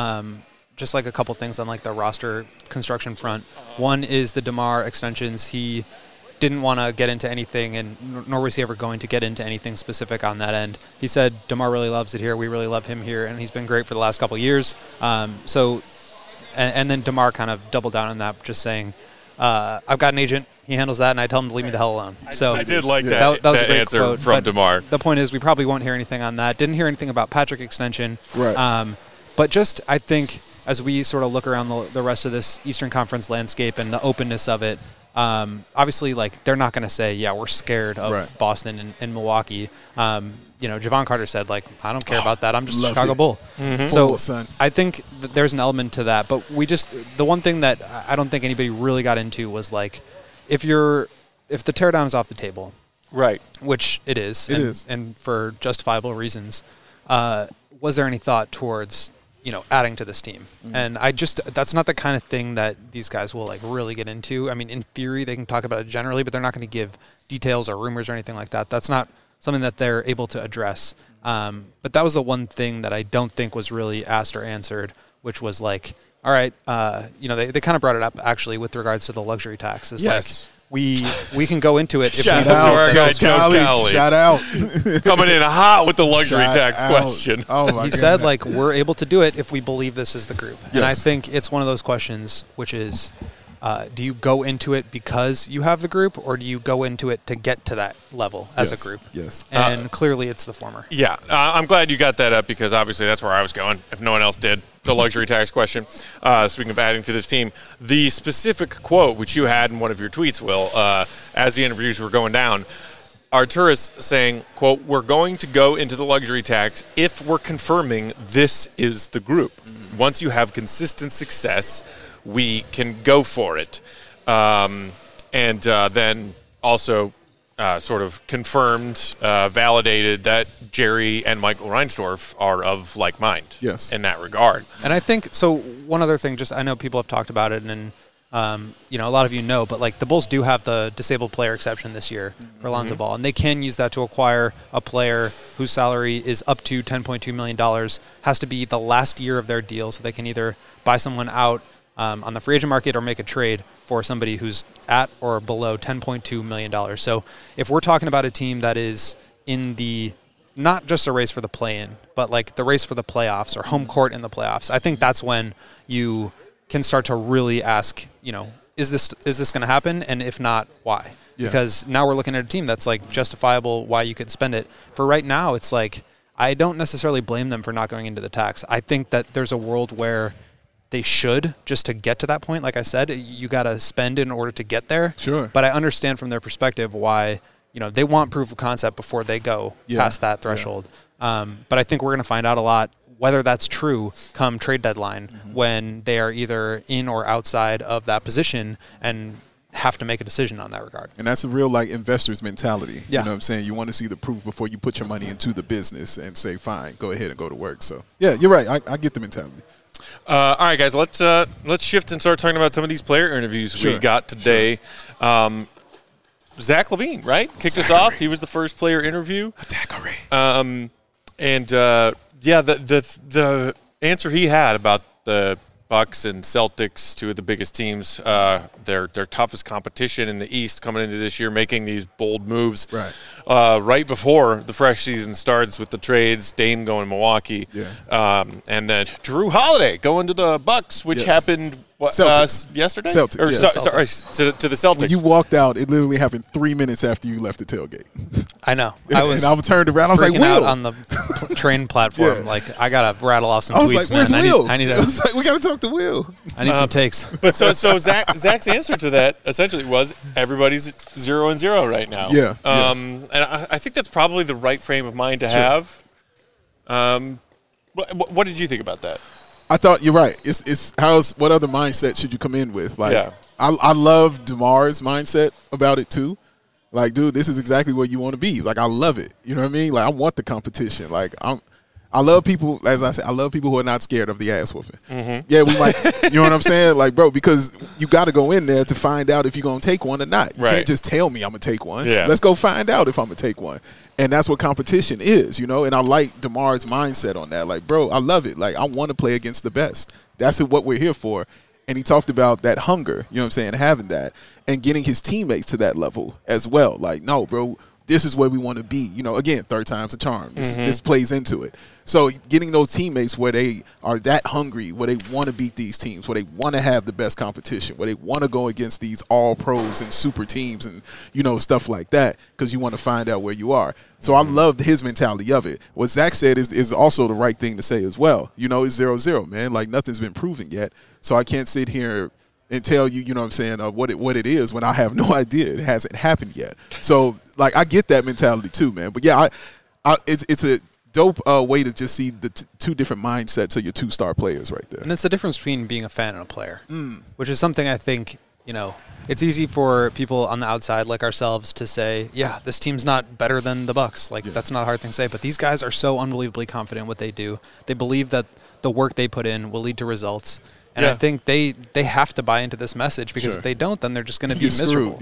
[SPEAKER 4] just like a couple things on like the roster construction front. One is the DeMar extensions. He didn't want to get into anything, and nor was he ever going to get into anything specific on that end. He said DeMar really loves it here. We really love him here, and he's been great for the last couple of years. And then DeMar kind of doubled down on that, just saying, I've got an agent. He handles that, and I tell him to leave me the hell alone. So
[SPEAKER 1] I did like that was a great answer
[SPEAKER 4] quote,
[SPEAKER 1] from DeMar.
[SPEAKER 4] The point is we probably won't hear anything on that. Didn't hear anything about Patrick extension.
[SPEAKER 2] Right.
[SPEAKER 4] But just I think as we sort of look around the rest of this Eastern Conference landscape and the openness of it, obviously, like, they're not going to say, yeah, we're scared of Boston and Milwaukee. Javon Carter said, like, I don't care about that. I'm just a Chicago Bull.
[SPEAKER 2] Mm-hmm.
[SPEAKER 4] So I think that there's an element to that. But the one thing that I don't think anybody really got into was, like, if the teardown is off the table,
[SPEAKER 1] right,
[SPEAKER 4] which it is, and for justifiable reasons, was there any thought towards adding to this team? And that's not the kind of thing that these guys will like really get into. I mean, in theory, they can talk about it generally, but they're not going to give details or rumors or anything like that. That's not something that they're able to address. But that was the one thing that I don't think was really asked or answered, which was like, all right, they kind of brought it up actually with regards to the luxury tax. It's like, we can go into it.
[SPEAKER 1] Shout out to our guy, Joe Cowley.
[SPEAKER 2] Shout out.
[SPEAKER 1] Coming in hot with the luxury tax question.
[SPEAKER 2] Oh, my God.
[SPEAKER 4] He said, like, we're able to do it if we believe this is the group. Yes. And I think it's one of those questions, which is, do you go into it because you have the group, or do you go into it to get to that level as a group?
[SPEAKER 2] Yes.
[SPEAKER 4] And clearly it's the former.
[SPEAKER 1] Yeah. I'm glad you got that up because obviously that's where I was going, if no one else did. The luxury tax question. Speaking of adding to this team, the specific quote, which you had in one of your tweets, Will, as the interviews were going down, Arturas saying, quote, we're going to go into the luxury tax if we're confirming this is the group. Mm-hmm. Once you have consistent success, we can go for it. And then also sort of confirmed, validated that Jerry and Michael Reinsdorf are of like mind in that regard.
[SPEAKER 4] And I think, so one other thing, just I know people have talked about it, and a lot of you know, but like the Bulls do have the disabled player exception this year for Lonzo Ball, and they can use that to acquire a player whose salary is up to $10.2 million, has to be the last year of their deal, so they can either buy someone out on the free agent market or make a trade for somebody who's at or below $10.2 million. So if we're talking about a team that is in the, not just a race for the play-in, but like the race for the playoffs or home court in the playoffs, I think that's when you can start to really ask, is this going to happen? And if not, why? Yeah. Because now we're looking at a team that's like justifiable why you could spend it. For right now, it's like, I don't necessarily blame them for not going into the tax. I think that there's a world where they should, just to get to that point. Like I said, you got to spend in order to get there.
[SPEAKER 2] Sure.
[SPEAKER 4] But I understand from their perspective why, they want proof of concept before they go past that threshold. Yeah. But I think we're going to find out a lot whether that's true come trade deadline when they are either in or outside of that position and have to make a decision on that regard.
[SPEAKER 2] And that's a real investor's mentality.
[SPEAKER 4] Yeah.
[SPEAKER 2] You know what I'm saying? You want to see the proof before you put your money into the business and say, fine, go ahead and go to work. So, yeah, you're right. I get the mentality.
[SPEAKER 1] All right, guys, let's shift and start talking about some of these player interviews we got today. Sure. Zach LaVine, right? Kicked us off. He was the first player interview. The answer he had about the Bucks and Celtics, two of the biggest teams, their toughest competition in the East coming into this year, making these bold moves right before the fresh season starts with the trades, Dame going to Milwaukee, and then Drew Holiday going to the Bucks, which happened yesterday?
[SPEAKER 2] Celtics.
[SPEAKER 1] Sorry, to the Celtics.
[SPEAKER 2] When you walked out, it literally happened 3 minutes after you left the tailgate.
[SPEAKER 4] I know.
[SPEAKER 2] And I turned around. I was like, Will.
[SPEAKER 4] Out on the train platform. Like, I got to rattle off some tweets,
[SPEAKER 2] I was like, where's Will?
[SPEAKER 4] I
[SPEAKER 2] was like, we got to talk to Will.
[SPEAKER 4] I need some takes.
[SPEAKER 1] But so Zach's answer to that essentially was everybody's 0-0 right now.
[SPEAKER 2] Yeah.
[SPEAKER 1] And I think that's probably the right frame of mind to have. What did you think about that?
[SPEAKER 2] I thought you're right. What other mindset should you come in with? I love DeMar's mindset about it too. Like, dude, this is exactly where you want to be. Like, I love it. You know what I mean? Like, I want the competition. Like, I love people, as I said, I love people who are not scared of the ass whooping. Mm-hmm. Yeah, we might, you know what I'm saying? Like, bro, because you got to go in there to find out if you're going to take one or not. You can't just tell me I'm going to take one.
[SPEAKER 1] Yeah.
[SPEAKER 2] Let's go find out if I'm going to take one. And that's what competition is, And I like DeMar's mindset on that. Like, bro, I love it. Like, I want to play against the best. That's what we're here for. And he talked about that hunger, you know what I'm saying, having that and getting his teammates to that level as well. Like, no, bro, this is where we want to be. Again, third time's a charm. This plays into it. So getting those teammates where they are that hungry, where they want to beat these teams, where they want to have the best competition, where they want to go against these all-pros and super teams and, stuff like that because you want to find out where you are. So I loved his mentality of it. What Zach said is also the right thing to say as well. It's 0-0, man. Like, nothing's been proven yet. So I can't sit here and tell you, you know what I'm saying, what it is when I have no idea. It hasn't happened yet. So, like, I get that mentality too, man. But, yeah, it's a dope way to just see the two different mindsets of your two-star players right there.
[SPEAKER 4] And it's the difference between being a fan and a player, which is something I think, it's easy for people on the outside like ourselves to say, yeah, this team's not better than the Bucks. Like, that's not a hard thing to say. But these guys are so unbelievably confident in what they do. They believe that the work they put in will lead to results. And I think they have to buy into this message because if they don't, then they're just going to be miserable.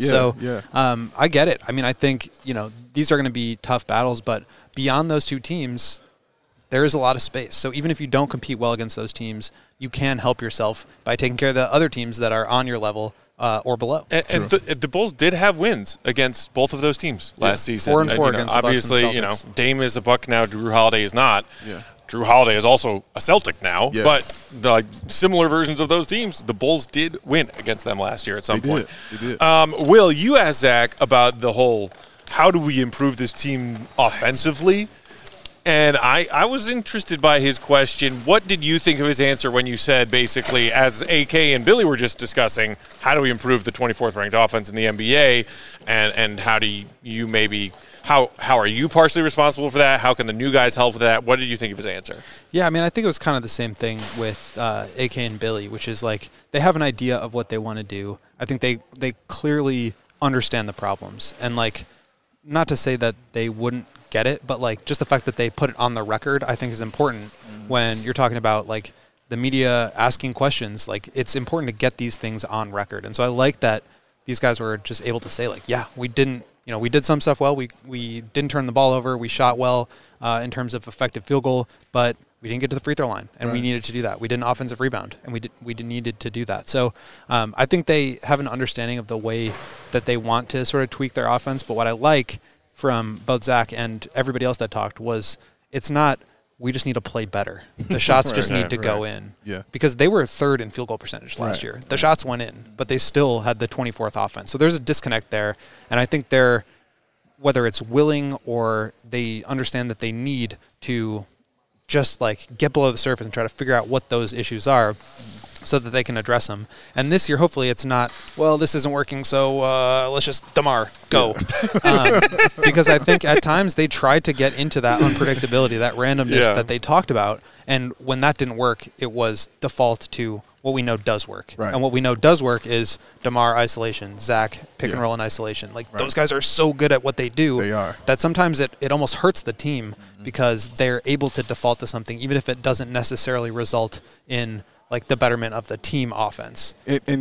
[SPEAKER 4] I get it. I mean, I think, these are going to be tough battles, but beyond those two teams, there is a lot of space. So even if you don't compete well against those teams, you can help yourself by taking care of the other teams that are on your level or below.
[SPEAKER 1] And the Bulls did have wins against both of those teams last season.
[SPEAKER 4] 4-4 against the Bucks and Celtics.
[SPEAKER 1] Dame is a Buck now, Drew Holiday is not.
[SPEAKER 2] Yeah.
[SPEAKER 1] Drew Holiday is also a Celtic now, but the similar versions of those teams, the Bulls did win against them last year at some point.
[SPEAKER 2] They did.
[SPEAKER 1] Will, you asked Zach about the whole, how do we improve this team offensively? And I was interested by his question. What did you think of his answer when you said, basically, as AK and Billy were just discussing, how do we improve the 24th ranked offense in the NBA, and how do you maybe – How are you partially responsible for that? How can the new guys help with that? What did you think of his answer?
[SPEAKER 4] Yeah, I mean, I think it was kind of the same thing with AK and Billy, which is like they have an idea of what they want to do. I think they clearly understand the problems. And like not to say that they wouldn't get it, but like just the fact that they put it on the record, I think is important when you're talking about like the media asking questions. Like it's important to get these things on record. And so I like that these guys were just able to say like, yeah, we did some stuff well. We didn't turn the ball over. We shot well in terms of effective field goal, but we didn't get to the free throw line, and we needed to do that. We did an offensive rebound, and we needed to do that. So I think they have an understanding of the way that they want to sort of tweak their offense. But what I like from both Zach and everybody else that talked was it's not we just need to play better. The shots just need to go in.
[SPEAKER 2] Yeah.
[SPEAKER 4] Because they were third in field goal percentage last year. The shots went in, but they still had the 24th offense. So there's a disconnect there, and I think they're, whether it's willing or they understand that they need to just like get below the surface and try to figure out what those issues are so that they can address them. And this year, hopefully it's not, well, this isn't working, so let's just DeMar, go. Because I think at times they tried to get into that unpredictability, that randomness that they talked about. And when that didn't work, it was default to what we know does work.
[SPEAKER 2] Right.
[SPEAKER 4] And what we know does work is DeMar isolation, Zach pick and roll in isolation. Like those guys are so good at what they do
[SPEAKER 2] They are.
[SPEAKER 4] that sometimes it almost hurts the team because they're able to default to something, even if it doesn't necessarily result in like the betterment of the team offense.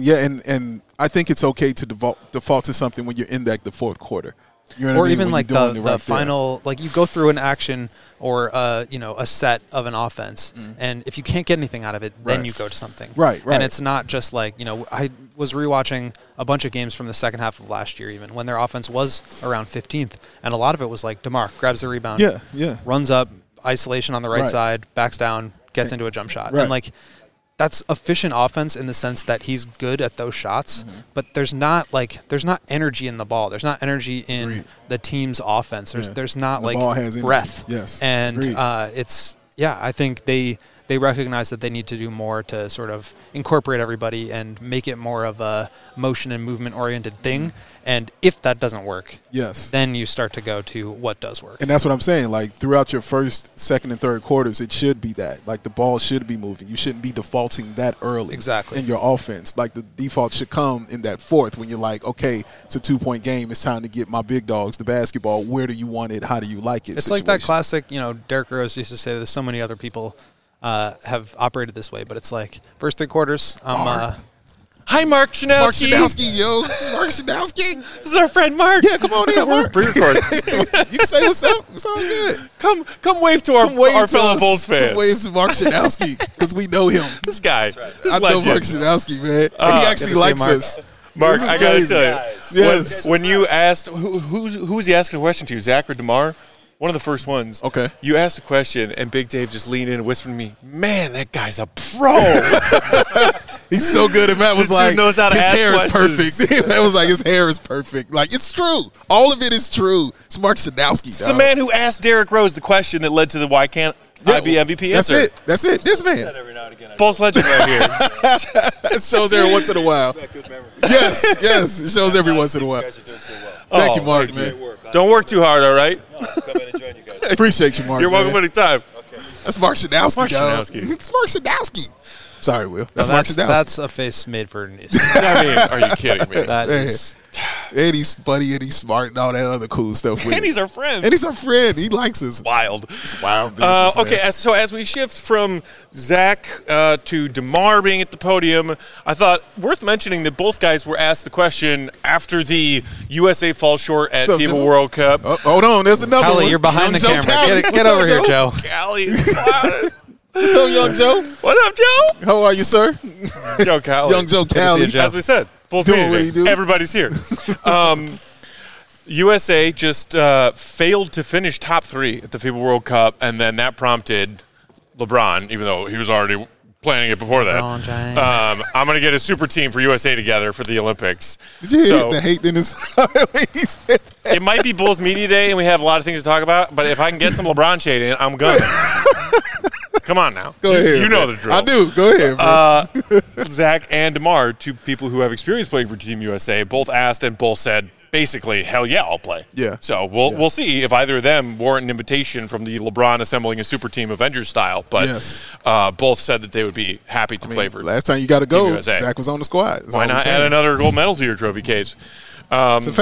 [SPEAKER 2] And I think it's okay to default to something when you're in the fourth quarter. You know what I
[SPEAKER 4] Or
[SPEAKER 2] mean?
[SPEAKER 4] even
[SPEAKER 2] When
[SPEAKER 4] like
[SPEAKER 2] you're doing
[SPEAKER 4] the
[SPEAKER 2] it right
[SPEAKER 4] final, like you go through an action or a set of an offense, and if you can't get anything out of it, then
[SPEAKER 2] Right.
[SPEAKER 4] you go to something.
[SPEAKER 2] Right.
[SPEAKER 4] And it's not just like, I was rewatching a bunch of games from the second half of last year, even when their offense was around 15th, and a lot of it was like DeMar grabs the rebound, runs up, isolation on the right side, backs down, gets into a jump shot, and like. That's efficient offense in the sense that he's good at those shots, but there's not energy in the ball. There's not energy in the team's offense. There's not
[SPEAKER 2] the ball has
[SPEAKER 4] breath.
[SPEAKER 2] Energy. Yes.
[SPEAKER 4] And I think they recognize that they need to do more to sort of incorporate everybody and make it more of a motion and movement oriented thing. And if that doesn't work, then you start to go to what does work.
[SPEAKER 2] And that's what I'm saying. Like throughout your first, second, and third quarters, it should be that. Like the ball should be moving. You shouldn't be defaulting that early.
[SPEAKER 4] Exactly.
[SPEAKER 2] In your offense. Like the default should come in that fourth when you're like, okay, it's a 2-point game. It's time to get my big dogs the basketball. Where do you want it? How do you like it?
[SPEAKER 4] It's
[SPEAKER 2] situation.
[SPEAKER 4] like that classic, Derrick Rose used to say there's so many other people have operated this way, but it's like first 3 quarters,
[SPEAKER 1] Hi, Mark Schanowski.
[SPEAKER 2] Mark Schanowski, yo. It's Mark Schanowski.
[SPEAKER 1] This is our friend Mark.
[SPEAKER 2] Yeah, come on in, Mark.
[SPEAKER 1] Pre-record.
[SPEAKER 2] You can say what's up. It's all good.
[SPEAKER 1] Come wave to our fellow Bulls fans.
[SPEAKER 2] Come wave to Mark Schanowski because we know him.
[SPEAKER 1] This guy. This
[SPEAKER 2] I know
[SPEAKER 1] legend.
[SPEAKER 2] Mark Schanowski, man. He actually likes us.
[SPEAKER 1] Mark,
[SPEAKER 2] This is
[SPEAKER 1] I got to
[SPEAKER 2] crazy.
[SPEAKER 1] tell you.
[SPEAKER 2] Yes.
[SPEAKER 1] When you asked, who was he asking a question to, Zach or DeMar? One of the first ones.
[SPEAKER 2] Okay.
[SPEAKER 1] You asked a question, and Big Dave just leaned in and whispered to me, man, that guy's a pro.
[SPEAKER 2] He's so good. And Matt was
[SPEAKER 1] This dude
[SPEAKER 2] like,
[SPEAKER 1] knows how to
[SPEAKER 2] his
[SPEAKER 1] ask
[SPEAKER 2] hair
[SPEAKER 1] questions.
[SPEAKER 2] is perfect. Matt was like, his hair is perfect. Like, it's true. All of it is true. It's Mark Schanowski,
[SPEAKER 1] It's the man who asked Derrick Rose the question that led to the why can't I be MVP
[SPEAKER 2] That's
[SPEAKER 1] answer.
[SPEAKER 2] That's it. This man.
[SPEAKER 1] Bulls legend right here.
[SPEAKER 2] It shows every once in a while. Yes. It shows every once in a while. Thank you, Mark, man.
[SPEAKER 1] Don't work too hard, all right?
[SPEAKER 2] Appreciate you, Mark.
[SPEAKER 1] You're welcome
[SPEAKER 2] man.
[SPEAKER 1] anytime.
[SPEAKER 2] That's Mark Schanowski,
[SPEAKER 1] Mark
[SPEAKER 2] dog.
[SPEAKER 1] Schanowski.
[SPEAKER 2] It's Mark Schanowski. Sorry, Will. That's Mark Schanowski.
[SPEAKER 4] That's a face made for news.
[SPEAKER 1] I mean, are you kidding me?
[SPEAKER 4] That
[SPEAKER 2] Man.
[SPEAKER 4] is.
[SPEAKER 2] And he's funny and he's smart and all that other cool stuff. With
[SPEAKER 1] And he's our friend.
[SPEAKER 2] And he's our friend. He likes us.
[SPEAKER 1] Wild.
[SPEAKER 2] It's wild business, man.
[SPEAKER 1] Okay, so as we shift from Zach to DeMar being at the podium, I thought worth mentioning that both guys were asked the question after the USA falls short at
[SPEAKER 2] What's up,
[SPEAKER 1] FIBA
[SPEAKER 2] Joe?
[SPEAKER 1] World Cup.
[SPEAKER 2] Oh, hold on. There's another
[SPEAKER 4] Callie,
[SPEAKER 2] one.
[SPEAKER 4] you're behind
[SPEAKER 2] Young
[SPEAKER 4] the
[SPEAKER 2] Joe
[SPEAKER 4] camera.
[SPEAKER 2] Callie.
[SPEAKER 4] Get over here, Joe.
[SPEAKER 1] Callie.
[SPEAKER 2] What's up, Young Joe?
[SPEAKER 1] What up, Joe?
[SPEAKER 2] How are you, sir?
[SPEAKER 1] Joe Callie.
[SPEAKER 2] Young Joe
[SPEAKER 4] to see you,
[SPEAKER 2] Callie.
[SPEAKER 4] Joe.
[SPEAKER 1] As we said, Bulls
[SPEAKER 2] Doing what
[SPEAKER 1] meeting.
[SPEAKER 2] he do.
[SPEAKER 1] Everybody's here. USA just failed to finish top 3 at the FIBA World Cup, and then that prompted LeBron, even though he was already planning it before that.
[SPEAKER 4] LeBron James.
[SPEAKER 1] I'm going to get a super team for USA together for the Olympics.
[SPEAKER 2] Did you hear
[SPEAKER 1] So-
[SPEAKER 2] the hate in his he said that?
[SPEAKER 1] It might be Bulls Media Day, and we have a lot of things to talk about, but if I can get some LeBron shade in, I'm gonna. Come on now.
[SPEAKER 2] Go ahead.
[SPEAKER 1] You know
[SPEAKER 2] man.
[SPEAKER 1] the drill.
[SPEAKER 2] I do. Go ahead, man.
[SPEAKER 1] Zach and DeMar, 2 people who have experience playing for Team USA, both asked and both said, basically, hell yeah, I'll play.
[SPEAKER 2] Yeah.
[SPEAKER 1] So we'll see if either of them warrant an invitation from the LeBron assembling a super team Avengers style. But
[SPEAKER 2] Yes.
[SPEAKER 1] both said that they would be happy to play for.
[SPEAKER 2] Last time you got to go,
[SPEAKER 1] USA.
[SPEAKER 2] Zach was on the squad. That's
[SPEAKER 1] Why
[SPEAKER 2] all I'm
[SPEAKER 1] not
[SPEAKER 2] saying.
[SPEAKER 1] add another gold medal to your trophy case?
[SPEAKER 2] It's a fact.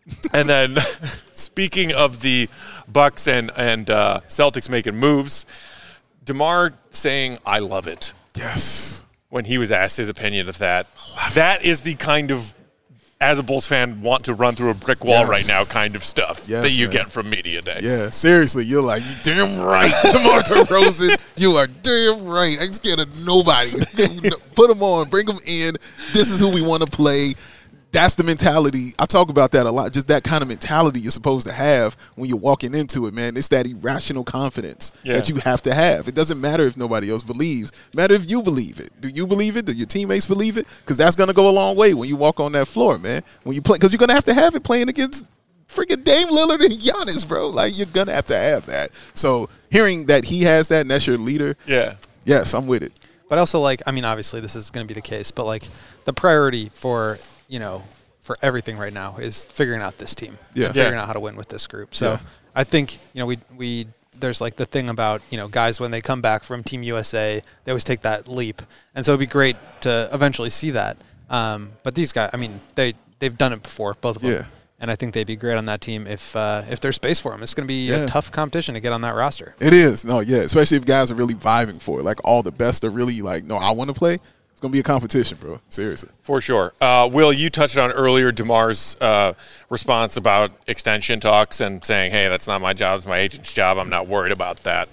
[SPEAKER 1] And then, speaking of the Bucks and Celtics making moves, DeMar saying, "I love it."
[SPEAKER 2] Yes.
[SPEAKER 1] When he was asked his opinion of that. That is the kind of, as a Bulls fan, want to run through a brick wall right now kind of stuff that you get from media day.
[SPEAKER 2] Yeah, seriously. You're like, you damn right, DeMar DeRozan. You are damn right. I ain't scared of nobody. Put them on. Bring them in. This is who we want to play. That's the mentality. I talk about that a lot. Just that kind of mentality you're supposed to have when you're walking into it, man. It's that irrational confidence that you have to have. It doesn't matter if nobody else believes. It matters if you believe it. Do you believe it? Do your teammates believe it? Because that's going to go a long way when you walk on that floor, man. When you play, because you're going to have it playing against freaking Dame Lillard and Giannis, bro. Like, you're going to have that. So hearing that he has that and that's your leader, yes, I'm with it.
[SPEAKER 4] But also, like, I mean, obviously this is going to be the case, but, like, the priority for – for everything right now is figuring out this team. Figuring out how to win with this group. So I think, we there's like the thing about, guys when they come back from Team USA, they always take that leap. And so it'd be great to eventually see that. But these guys, I mean, they've done it before, both of them. Yeah. And I think they'd be great on that team if there's space for them. It's going to be a tough competition to get on that roster.
[SPEAKER 2] It is. No, especially if guys are really vibing for it. Like, all the best are really like, no, I want to play. It's going to be a competition, bro. Seriously.
[SPEAKER 1] For sure. Will, you touched on earlier DeMar's response about extension talks and saying, hey, that's not my job. It's my agent's job. I'm not worried about that.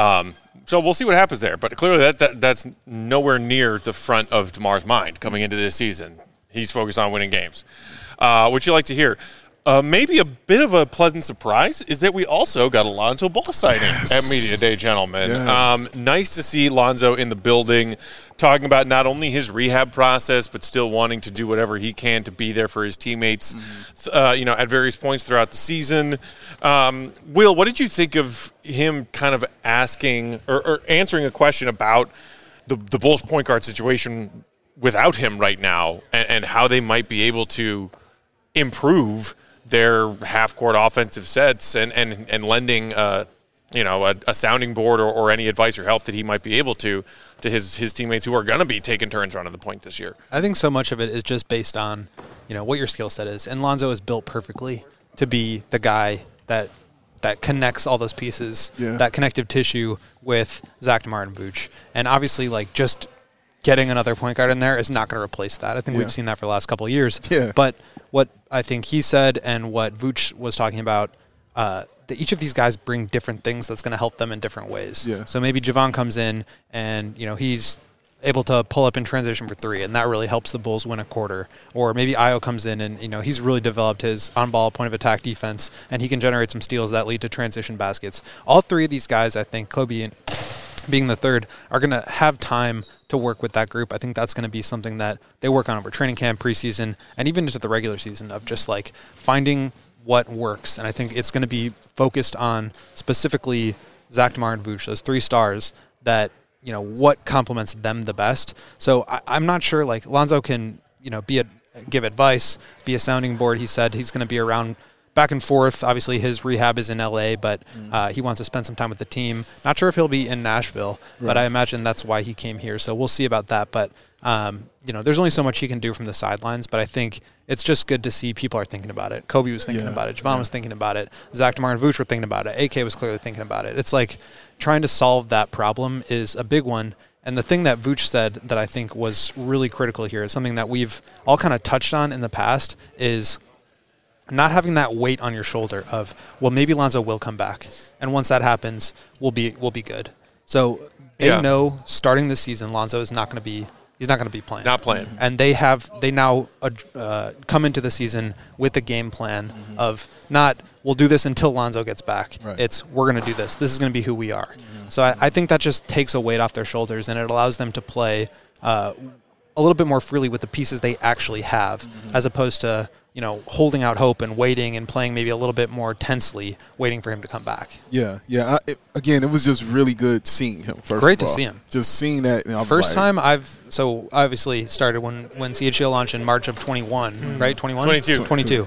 [SPEAKER 1] So we'll see what happens there. But clearly that's nowhere near the front of DeMar's mind coming into this season. He's focused on winning games, which you like to hear. Maybe a bit of a pleasant surprise is that we also got a Lonzo Ball sighting at Media Day, gentlemen. Yes. Nice to see Lonzo in the building, talking about not only his rehab process, but still wanting to do whatever he can to be there for his teammates, at various points throughout the season. Will, what did you think of him kind of asking or answering a question about the Bulls point guard situation without him right now and how they might be able to improve their half-court offensive sets and lending, a sounding board or any advice or help that he might be able to his teammates who are going to be taking turns running the point this year? I
[SPEAKER 4] think so much of it is just based on, what your skill set is. And Lonzo is built perfectly to be the guy that connects all those pieces, that connective tissue with Zach, DeMar, and Vooch. And obviously, like, just getting another point guard in there is not going to replace that. I think we've seen that for the last couple of years. Yeah. But what I think he said and what Vooch was talking about, that each of these guys bring different things that's going to help them in different ways. Yeah. So maybe Javon comes in and, he's able to pull up in transition for three, and that really helps the Bulls win a quarter. Or maybe Ayo comes in and, he's really developed his on-ball point of attack defense, and he can generate some steals that lead to transition baskets. All three of these guys, I think, Kobe being the third, are going to have time to work with that group. I think that's going to be something that they work on over training camp, preseason, and even into the regular season of just like finding what works. And I think it's going to be focused on specifically Zach, DeMar, and Vooch, those three stars that, what complements them the best. So I'm not sure, like, Lonzo can, give advice, be a sounding board. He said he's going to be around back and forth. Obviously, his rehab is in L.A., but he wants to spend some time with the team. Not sure if he'll be in Nashville, but I imagine that's why he came here. So we'll see about that. But, there's only so much he can do from the sidelines, but I think it's just good to see people are thinking about it. Kobe was thinking about it. Javon was thinking about it. Zach, DeMar, and Vooch were thinking about it. AK was clearly thinking about it. It's like trying to solve that problem is a big one. And the thing that Vooch said that I think was really critical here is something that we've all kind of touched on in the past is not having that weight on your shoulder of, well, maybe Lonzo will come back. And once that happens, we'll be good. So they know starting this season, Lonzo is not going to be playing. Not playing. And they now come into the season with a game plan of not, we'll do this until Lonzo gets back. Right. It's, we're going to do this. This is going to be who we are. So I think that just takes a weight off their shoulders, and it allows them to play a little bit more freely with the pieces they actually have, as opposed to, holding out hope and waiting and playing maybe a little bit more tensely, waiting for him to come back.
[SPEAKER 2] Yeah. It was just really good seeing him.
[SPEAKER 4] Great to see him.
[SPEAKER 2] Just seeing that.
[SPEAKER 4] First time so obviously started when CHGO launched in March of 21, right? 21? 22.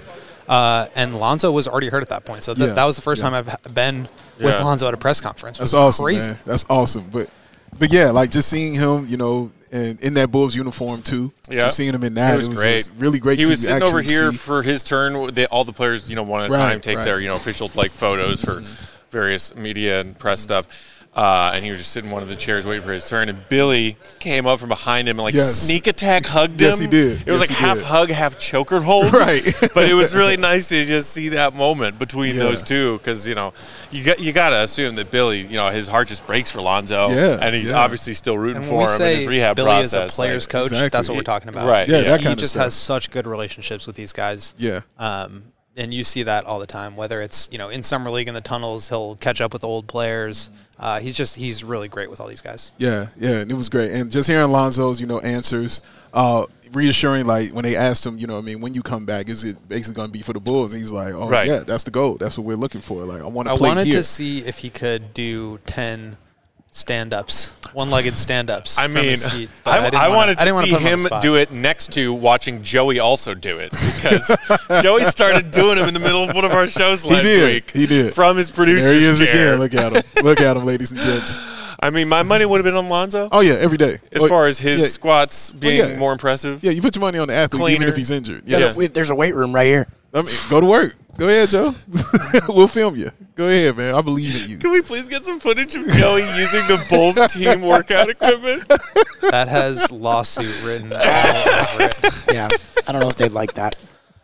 [SPEAKER 4] And Lonzo was already hurt at that point. So that was the first time I've been with Lonzo at a press conference.
[SPEAKER 2] That's awesome, crazy. Man. That's awesome. But yeah, like just seeing him, and in that Bulls uniform too.
[SPEAKER 1] Yeah.
[SPEAKER 2] Just seeing him in that,
[SPEAKER 1] it was great.
[SPEAKER 2] Just really great.
[SPEAKER 1] He
[SPEAKER 2] to
[SPEAKER 1] was sitting over
[SPEAKER 2] actually
[SPEAKER 1] here
[SPEAKER 2] see.
[SPEAKER 1] for his turn. All the players, one at a time take their, official photos for various media and press stuff. And he was just sitting in one of the chairs waiting for his turn. And Billy came up from behind him and sneak attack hugged him.
[SPEAKER 2] Yes, he did.
[SPEAKER 1] It was half hug, half choker hold.
[SPEAKER 2] Right.
[SPEAKER 1] But it was really nice to just see that moment between those two because, you got to assume that Billy, his heart just breaks for Lonzo.
[SPEAKER 2] Yeah,
[SPEAKER 1] and he's obviously still rooting
[SPEAKER 4] And
[SPEAKER 1] for
[SPEAKER 4] when
[SPEAKER 1] him
[SPEAKER 4] we say
[SPEAKER 1] in his rehab
[SPEAKER 4] Billy
[SPEAKER 1] process.
[SPEAKER 4] is a player's coach,
[SPEAKER 2] Exactly.
[SPEAKER 4] that's what we're talking about.
[SPEAKER 1] Right.
[SPEAKER 2] Yeah, that
[SPEAKER 4] He
[SPEAKER 2] kind of
[SPEAKER 4] just
[SPEAKER 2] stuff.
[SPEAKER 4] has such good relationships with these guys.
[SPEAKER 2] Yeah.
[SPEAKER 4] And you see that all the time, whether it's, in Summer League in the tunnels, he'll catch up with old players. He's really great with all these guys.
[SPEAKER 2] Yeah, and it was great. And just hearing Lonzo's, answers, reassuring, when they asked him, when you come back, is it basically going to be for the Bulls? And he's like, yeah, that's the goal. That's what we're looking for. I want to play here.
[SPEAKER 4] I wanted to see if he could do 10 stand-ups, one-legged stand-ups.
[SPEAKER 1] I
[SPEAKER 4] from
[SPEAKER 1] mean,
[SPEAKER 4] his seat,
[SPEAKER 1] I wanted to see him
[SPEAKER 4] do
[SPEAKER 1] do it next to watching Joey also do it because Joey started doing him in the middle of one of our shows last week.
[SPEAKER 2] He did.
[SPEAKER 1] From his producer's
[SPEAKER 2] There he is
[SPEAKER 1] chair.
[SPEAKER 2] again. Look at him. Look at him, ladies and gents.
[SPEAKER 1] I mean, my money would have been on Lonzo.
[SPEAKER 2] Oh, yeah, every day.
[SPEAKER 1] As far as his squats being more impressive.
[SPEAKER 2] Yeah, you put your money on the athlete even
[SPEAKER 1] Cleaner.
[SPEAKER 2] if he's injured.
[SPEAKER 1] Yeah.
[SPEAKER 3] There's a weight room right here.
[SPEAKER 2] I mean, go to work. Go ahead, Joe. We'll film you. Go ahead, man. I believe in you.
[SPEAKER 1] Can we please get some footage of Joey using the Bulls team workout equipment?
[SPEAKER 4] That has lawsuit written all over it.
[SPEAKER 3] Yeah, I don't know if they'd like that.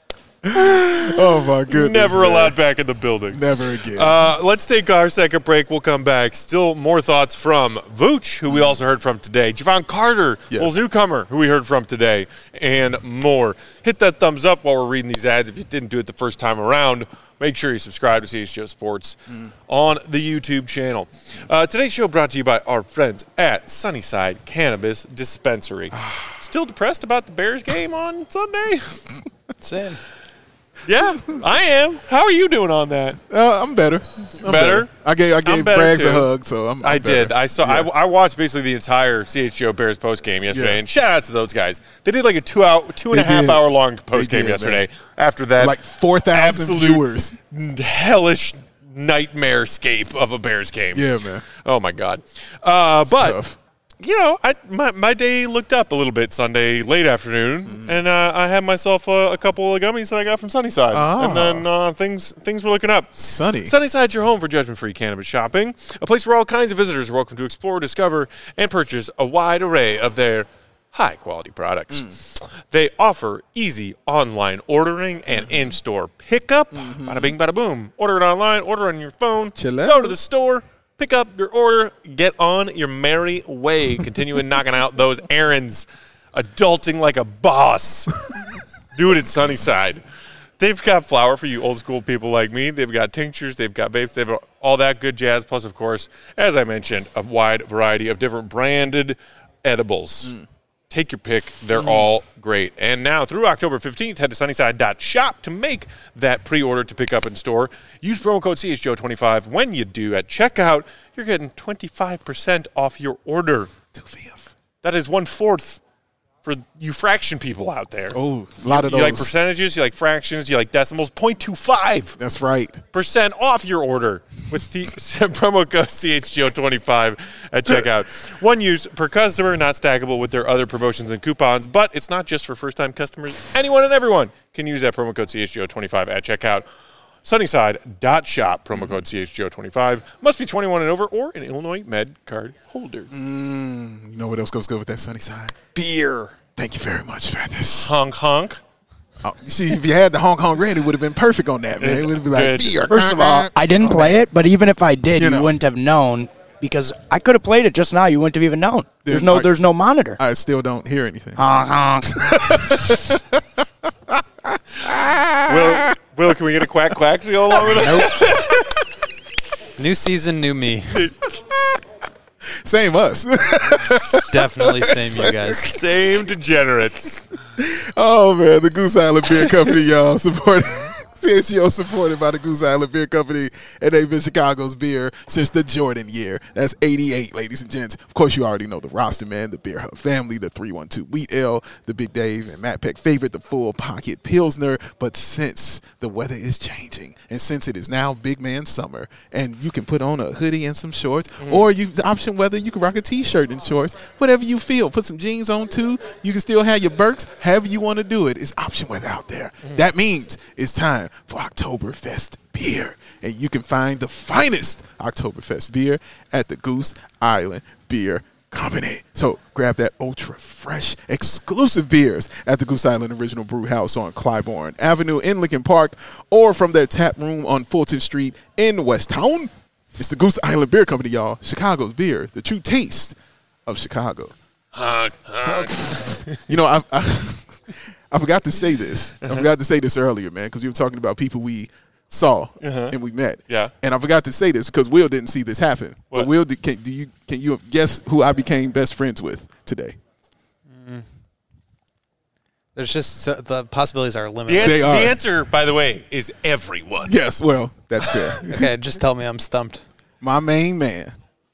[SPEAKER 2] Oh, my goodness.
[SPEAKER 1] Never
[SPEAKER 2] man.
[SPEAKER 1] allowed back in the building.
[SPEAKER 2] Never again.
[SPEAKER 1] Let's take our second break. We'll come back. Still more thoughts from Vooch, who we also heard from today. Javon Carter,
[SPEAKER 2] Yes.
[SPEAKER 1] Bulls newcomer, who we heard from today, and more. Hit that thumbs up while we're reading these ads. If you didn't do it the first time around, make sure you subscribe to CHGO Sports on the YouTube channel. Today's show brought to you by our friends at Sunnyside Cannabis Dispensary. Still depressed about the Bears game on Sunday?
[SPEAKER 4] Same.
[SPEAKER 1] Yeah, I am. How are you doing on that?
[SPEAKER 2] I'm better. I'm
[SPEAKER 1] Better?
[SPEAKER 2] I gave
[SPEAKER 1] better
[SPEAKER 2] Braggs
[SPEAKER 1] too.
[SPEAKER 2] a hug, so I'm
[SPEAKER 1] I
[SPEAKER 2] better.
[SPEAKER 1] did. I saw.
[SPEAKER 2] Yeah.
[SPEAKER 1] I watched basically the entire CHGO Bears post game yesterday,
[SPEAKER 2] Yeah.
[SPEAKER 1] and shout out to those guys. They did like a 2.5
[SPEAKER 2] did.
[SPEAKER 1] hour long post game
[SPEAKER 2] did,
[SPEAKER 1] yesterday.
[SPEAKER 2] man.
[SPEAKER 1] After that,
[SPEAKER 2] Like 4,000
[SPEAKER 1] absolute
[SPEAKER 2] viewers.
[SPEAKER 1] hellish nightmare scape of a Bears game.
[SPEAKER 2] Yeah, man.
[SPEAKER 1] Oh my God. But
[SPEAKER 2] Tough.
[SPEAKER 1] my day looked up a little bit Sunday late afternoon, and I had myself a couple of gummies that I got from Sunnyside, and then things were looking up.
[SPEAKER 2] Sunny.
[SPEAKER 1] Sunnyside's your home for judgment-free cannabis shopping, a place where all kinds of visitors are welcome to explore, discover, and purchase a wide array of their high-quality products. They offer easy online ordering and in-store pickup. Bada bing, bada boom. Order it online, order on your phone,
[SPEAKER 2] Chill out.
[SPEAKER 1] go to the store, pick up your order, get on your merry way, continuing knocking out those errands, adulting like a boss. Do it at Sunnyside. They've got flour for you old school people like me. They've got tinctures, they've got vapes, they've got all that good jazz. Plus, of course, as I mentioned, a wide variety of different branded edibles. Take your pick. They're all great. And now through October 15th, head to sunnyside.shop to make that pre-order to pick up in store. Use promo code CHGO25 when you do at checkout. You're getting 25% off your order. That is 1/4 for you fraction people out there.
[SPEAKER 2] Oh, a lot of
[SPEAKER 1] You
[SPEAKER 2] those.
[SPEAKER 1] like percentages, you like fractions, you like decimals. 0.25%
[SPEAKER 2] That's right.
[SPEAKER 1] off your order with the promo code CHGO25 at checkout. One use per customer, not stackable with their other promotions and coupons, but it's not just for first-time customers. Anyone and everyone can use that promo code CHGO25 at checkout. Sunnyside.shop, promo code CHGO25. Must be 21 and over or an Illinois Med card holder.
[SPEAKER 2] You know what else goes good with that Sunnyside?
[SPEAKER 1] Beer.
[SPEAKER 2] Thank you very much for this.
[SPEAKER 1] Honk, honk.
[SPEAKER 2] Oh, you see, if you had the Hong Kong Red, it would have been perfect on that, man. It would be like
[SPEAKER 1] Good.
[SPEAKER 2] beer.
[SPEAKER 3] First of all, I didn't play it, but even if I did,
[SPEAKER 2] You
[SPEAKER 3] you
[SPEAKER 2] know.
[SPEAKER 3] wouldn't have known because I could have played it just now. You wouldn't have even known. There's
[SPEAKER 2] Then,
[SPEAKER 3] no monitor.
[SPEAKER 2] I still don't hear anything.
[SPEAKER 3] Honk, honk.
[SPEAKER 1] Will, can we get a quack quack to go along with that?
[SPEAKER 4] New season, new me.
[SPEAKER 2] Same us.
[SPEAKER 4] Definitely same you guys.
[SPEAKER 1] Same degenerates.
[SPEAKER 2] Oh, man. The Goose Island Beer Company, y'all. Support CHGO supported by the Goose Island Beer Company, and they've been Chicago's beer since the Jordan year. That's 88, ladies and gents. Of course, you already know the roster, man, the Beer Hub family, the 312 Wheat Ale, the Big Dave and Matt Peck favorite, the Full Pocket Pilsner. But since the weather is changing, and since it is now big man summer, and you can put on a hoodie and some shorts, or you the option whether you can rock a T-shirt and shorts, whatever you feel. Put some jeans on, too. You can still have your Birks, however you want to do it. It's option weather out there. That means it's time for Oktoberfest beer. And you can find the finest Oktoberfest beer at the Goose Island Beer Company. So grab that ultra fresh exclusive beers at the Goose Island Original Brew House on Clybourne Avenue in Lincoln Park, or from their tap room on Fulton Street in West Town. It's the Goose Island Beer Company, y'all. Chicago's beer, the true taste of Chicago. You know, I forgot to say this. I forgot to say this earlier, man, because you were talking about people we saw and we met.
[SPEAKER 1] Yeah.
[SPEAKER 2] And I forgot to say this because Will didn't see this happen.
[SPEAKER 1] What?
[SPEAKER 2] But Will, can you guess who I became best friends with today?
[SPEAKER 4] There's just the possibilities are limited.
[SPEAKER 1] The
[SPEAKER 2] They are.
[SPEAKER 1] answer, by the way, is everyone.
[SPEAKER 2] Yes, well, that's fair.
[SPEAKER 4] Okay, just tell me I'm stumped.
[SPEAKER 2] My main man,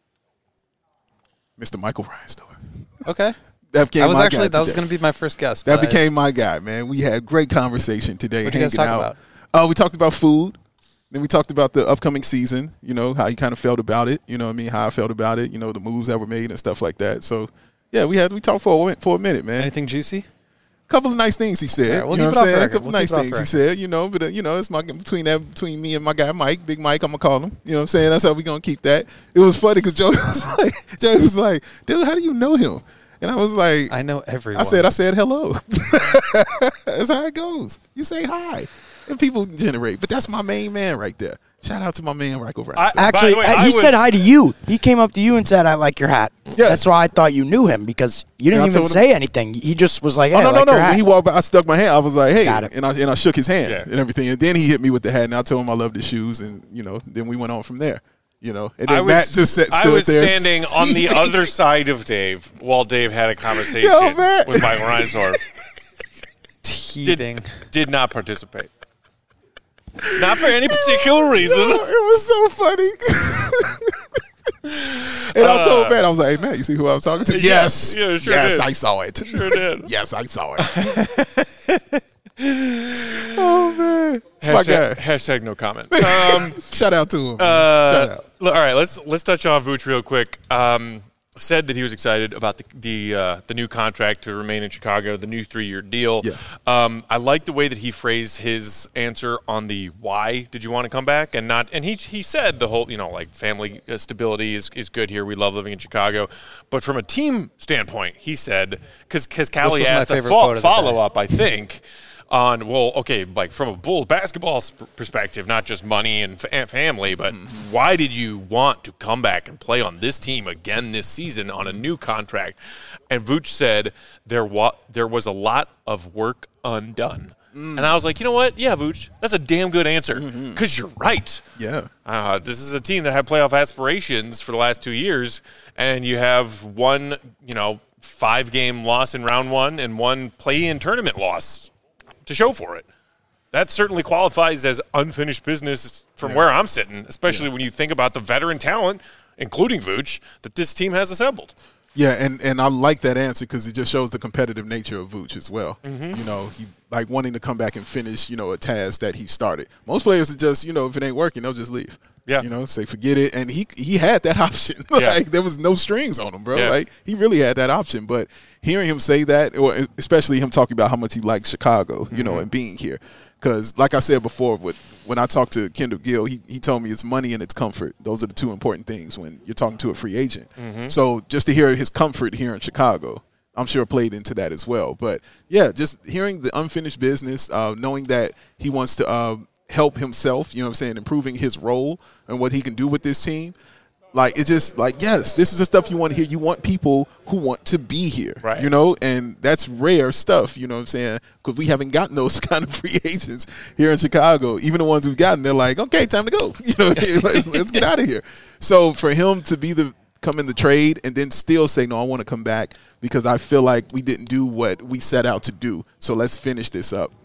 [SPEAKER 2] Mr. Michael Reinsdorf.
[SPEAKER 4] Okay.
[SPEAKER 2] That became
[SPEAKER 4] That was
[SPEAKER 2] my
[SPEAKER 4] actually
[SPEAKER 2] guy
[SPEAKER 4] was
[SPEAKER 2] today.
[SPEAKER 4] going to be my first guess.
[SPEAKER 2] That
[SPEAKER 4] but
[SPEAKER 2] became my guy, man. We had great conversation today.
[SPEAKER 4] What'd you guys
[SPEAKER 2] hanging
[SPEAKER 4] talk
[SPEAKER 2] out. We talked about food. Then we talked about the upcoming season, you know, how you kind of felt about it, you know what I mean, how I felt about it, you know, the moves that were made and stuff like that. So, yeah, we talked for a minute, man.
[SPEAKER 4] anything juicy?
[SPEAKER 2] A couple of nice things he said.
[SPEAKER 4] All right, we'll
[SPEAKER 2] you know
[SPEAKER 4] keep
[SPEAKER 2] what I'm
[SPEAKER 4] it off the
[SPEAKER 2] saying? A
[SPEAKER 4] record.
[SPEAKER 2] couple
[SPEAKER 4] We'll
[SPEAKER 2] nice
[SPEAKER 4] keep it off
[SPEAKER 2] things
[SPEAKER 4] the
[SPEAKER 2] he said, you know, but, you know, it's between me and my guy Mike, Big Mike, I'm going to call him. You know what I'm saying? That's how we going to keep that. It was funny because Joe was like, dude, how do you know him? And I was like,
[SPEAKER 4] I know everyone.
[SPEAKER 2] I said hello. That's how it goes. You say hi, and people generate. But that's my main man right there. Shout out to my man, Michael Reinsdorf.
[SPEAKER 3] Actually,
[SPEAKER 1] By the way,
[SPEAKER 3] he said hi to you. He came up to you and said, "I like your hat."
[SPEAKER 2] Yes.
[SPEAKER 3] That's why I thought you knew him, because you didn't
[SPEAKER 2] And I
[SPEAKER 3] even
[SPEAKER 2] told him-
[SPEAKER 3] say anything. He just was like, "Hey,
[SPEAKER 2] Oh,
[SPEAKER 3] I
[SPEAKER 2] no,
[SPEAKER 3] like
[SPEAKER 2] no.
[SPEAKER 3] your hat."
[SPEAKER 2] When he walked by, I stuck my hand. I was like, hey.
[SPEAKER 3] Got it.
[SPEAKER 2] And I shook his hand
[SPEAKER 1] Yeah.
[SPEAKER 2] and everything. And then he hit me with the hat, and I told him I loved his shoes. And, you know, then we went on from there. You know, and then Matt just stood
[SPEAKER 1] I was
[SPEAKER 2] there.
[SPEAKER 1] standing on the
[SPEAKER 2] seething.
[SPEAKER 1] other side of Dave while Dave had a conversation
[SPEAKER 2] Yo, man.
[SPEAKER 1] with Michael Reinsdorf.
[SPEAKER 4] Teething.
[SPEAKER 1] Did not participate. Not for any particular reason.
[SPEAKER 2] No, it was so funny. And I told Matt, I was like, hey, Matt, you see who I was talking to?
[SPEAKER 1] Yes. Yeah, sure
[SPEAKER 2] yes,
[SPEAKER 1] did.
[SPEAKER 2] I saw it.
[SPEAKER 1] Sure did.
[SPEAKER 2] Yes, I saw it. Oh, man. It's my guy.
[SPEAKER 1] Hashtag no comment.
[SPEAKER 2] Shout out to him. Shout out.
[SPEAKER 1] All right, let's touch on Vooch real quick. Said that he was excited about the new contract to remain in Chicago, the new 3-year deal.
[SPEAKER 2] Yeah.
[SPEAKER 1] I like the way that he phrased his answer on the why did you want to come back and not. And he said the whole, you know, like family stability is good here. We love living in Chicago, but from a team standpoint, he said because Callie
[SPEAKER 4] was my
[SPEAKER 1] asked a
[SPEAKER 4] favorite quote of the day.
[SPEAKER 1] follow up, I think. On, well, okay, like from a Bulls basketball perspective, not just money and family, but why did you want to come back and play on this team again this season on a new contract? And Vooch said there was a lot of work undone. And I was like, you know what? Yeah, Vooch, that's a damn good answer because you're right.
[SPEAKER 2] Yeah.
[SPEAKER 1] This is a team that had playoff aspirations for the last 2 years, and you have one, 5-game loss in round one and one play-in tournament loss to show for it. That certainly qualifies as unfinished business from where I'm sitting, especially when you think about the veteran talent, including Vooch, that this team has assembled.
[SPEAKER 2] Yeah, and I like that answer because it just shows the competitive nature of Vooch as well. You know, he like wanting to come back and finish, a task that he started. Most players are just, if it ain't working, they'll just leave.
[SPEAKER 1] Yeah.
[SPEAKER 2] Say forget it. And he had that option. Like there was no strings on him, bro.
[SPEAKER 1] Yeah.
[SPEAKER 2] Like he really had that option. But hearing him say that, or especially him talking about how much he likes Chicago, and being here. Because like I said before, when I talked to Kendall Gill, he told me it's money and it's comfort. Those are the two important things when you're talking to a free agent. So just to hear his comfort here in Chicago, I'm sure played into that as well. But, yeah, just hearing the unfinished business, knowing that he wants to help himself, improving his role and what he can do with this team. Like, it's just like, yes, this is the stuff you want to hear. You want people who want to be here,
[SPEAKER 1] right.
[SPEAKER 2] And that's rare stuff, because we haven't gotten those kind of free agents here in Chicago. Even the ones we've gotten, they're like, okay, time to go. Let's get out of here. So for him to come in the trade and then still say, no, I want to come back because I feel like we didn't do what we set out to do. So let's finish this up.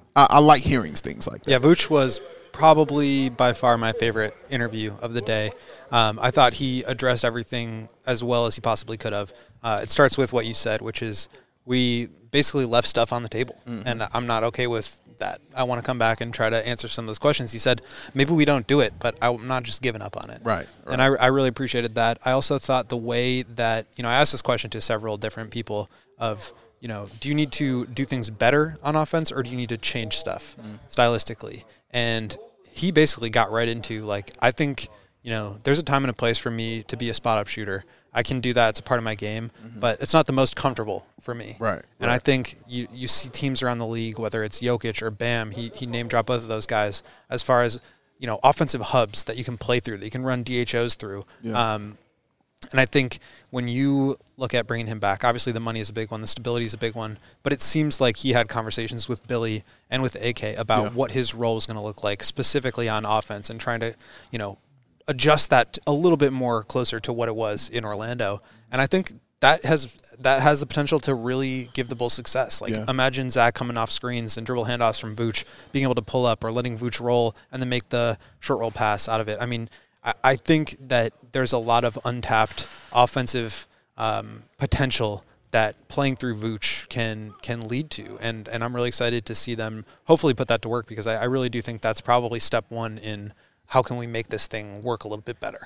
[SPEAKER 2] I like hearing things like that.
[SPEAKER 4] Yeah, Vooch was probably by far my favorite interview of the day. I thought he addressed everything as well as he possibly could have. It starts with what you said, which is we basically left stuff on the table, and I'm not okay with that. I want to come back and try to answer some of those questions. He said, maybe we don't do it, but I'm not just giving up on it.
[SPEAKER 2] Right.
[SPEAKER 4] And I really appreciated that. I also thought the way that, I asked this question to several different people of, do you need to do things better on offense or do you need to change stuff stylistically? And he basically got right into, like, I think, there's a time and a place for me to be a spot-up shooter. I can do that. It's a part of my game, but it's not the most comfortable for me.
[SPEAKER 2] Right.
[SPEAKER 4] And I think you see teams around the league, whether it's Jokic or Bam, he name-dropped both of those guys, as far as, offensive hubs that you can play through, that you can run DHOs through.
[SPEAKER 2] Yeah.
[SPEAKER 4] And I think when you look at bringing him back, obviously the money is a big one, the stability is a big one, but it seems like he had conversations with Billy and with AK about what his role is going to look like specifically on offense and trying to, adjust that a little bit more closer to what it was in Orlando. And I think that has the potential to really give the Bulls success. Like, imagine Zach coming off screens and dribble handoffs from Vooch, being able to pull up or letting Vooch roll and then make the short roll pass out of it. I mean, I think that there's a lot of untapped offensive potential that playing through Vooch can lead to. And I'm really excited to see them hopefully put that to work, because I really do think that's probably step one in how can we make this thing work a little bit better.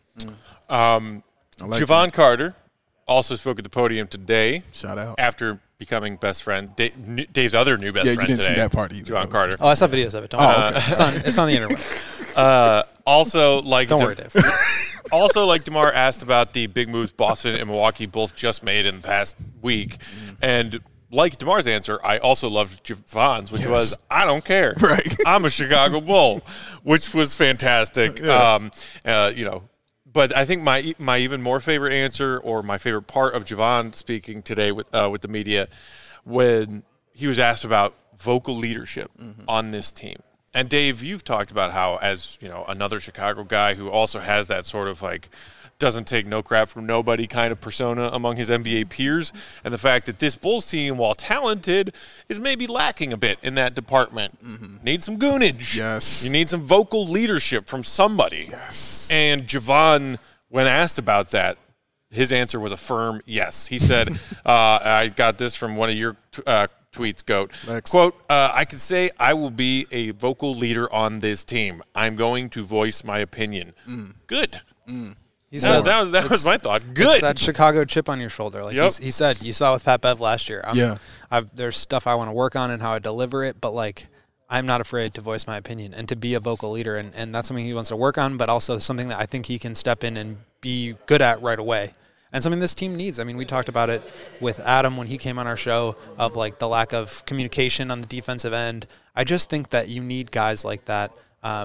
[SPEAKER 1] Javon Carter also spoke at the podium today.
[SPEAKER 2] Shout out.
[SPEAKER 1] After becoming best friend. Dave's other new best friend today.
[SPEAKER 2] Yeah, you didn't see that part either.
[SPEAKER 1] Javon Carter.
[SPEAKER 4] Oh, I saw videos of it. Don't worry. It's on the internet.
[SPEAKER 1] Also, like,
[SPEAKER 4] don't worry, Dave.
[SPEAKER 1] Also, like DeMar asked about the big moves Boston and Milwaukee both just made in the past week. And like DeMar's answer, I also loved Javon's, which was, I don't care.
[SPEAKER 2] Right.
[SPEAKER 1] I'm a Chicago Bull, which was fantastic.
[SPEAKER 2] Yeah.
[SPEAKER 1] But I think my even more favorite answer, or my favorite part of Javon speaking today with the media, when he was asked about vocal leadership on this team. And Dave, you've talked about how, as another Chicago guy who also has that sort of like doesn't take no crap from nobody kind of persona among his NBA peers, and the fact that this Bulls team, while talented, is maybe lacking a bit in that department. Need some goonage.
[SPEAKER 2] Yes.
[SPEAKER 1] You need some vocal leadership from somebody.
[SPEAKER 2] Yes.
[SPEAKER 1] And Javon, when asked about that, his answer was a firm yes. He said, I got this from one of your tweets, Goat.
[SPEAKER 2] Next.
[SPEAKER 1] Quote, I could say I will be a vocal leader on this team. I'm going to voice my opinion. Good. That was my thought. Good.
[SPEAKER 4] It's that Chicago chip on your shoulder. Like he said, you saw with Pat Bev last year. There's stuff I want to work on and how I deliver it, but like I'm not afraid to voice my opinion and to be a vocal leader, and that's something he wants to work on, but also something that I think he can step in and be good at right away. And something this team needs. I mean, we talked about it with Adam when he came on our show of like the lack of communication on the defensive end. I just think that you need guys like that.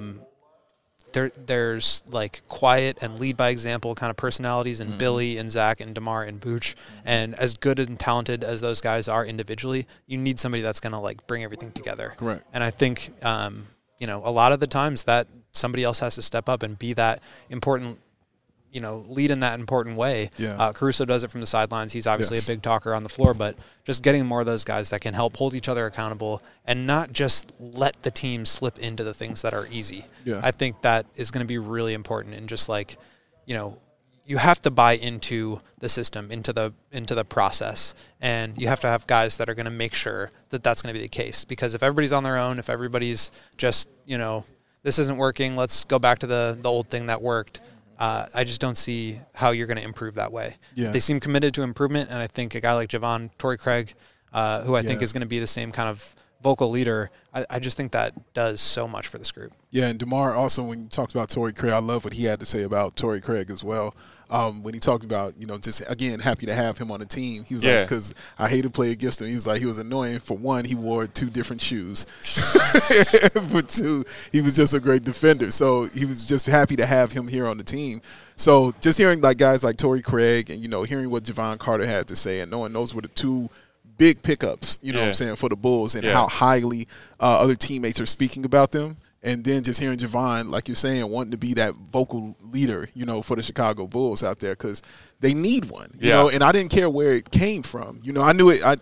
[SPEAKER 4] There's like quiet and lead by example kind of personalities in Billy and Zach and DeMar and Vooch. And as good and talented as those guys are individually, you need somebody that's going to like bring everything together.
[SPEAKER 2] Correct.
[SPEAKER 4] And I think, a lot of the times that somebody else has to step up and be that important, lead in that important way.
[SPEAKER 2] Yeah.
[SPEAKER 4] Caruso does it from the sidelines. He's obviously a big talker on the floor, but just getting more of those guys that can help hold each other accountable and not just let the team slip into the things that are easy.
[SPEAKER 2] Yeah.
[SPEAKER 4] I think that is going to be really important, and just like, you have to buy into the system, into the process, and you have to have guys that are going to make sure that that's going to be the case. Because if everybody's on their own, if everybody's just, this isn't working, let's go back to the old thing that worked. I just don't see how you're going to improve that way.
[SPEAKER 2] Yeah.
[SPEAKER 4] They seem committed to improvement, and I think a guy like Javon, Torrey Craig, who I think is going to be the same kind of vocal leader, I just think that does so much for this group.
[SPEAKER 2] Yeah, and DeMar also, when you talked about Torrey Craig, I love what he had to say about Torrey Craig as well. When he talked about, just, again, happy to have him on the team. He was like, because I hate to play against him. He was like, he was annoying. For one, he wore 2 different shoes. For 2, he was just a great defender. So he was just happy to have him here on the team. So just hearing like guys like Torrey Craig and, hearing what Javon Carter had to say and knowing those were the 2 big pickups, what I'm saying, for the Bulls, and how highly other teammates are speaking about them. And then just hearing Javon, like you're saying, wanting to be that vocal leader, for the Chicago Bulls out there, because they need one, you know. And I didn't care where it came from. I knew it.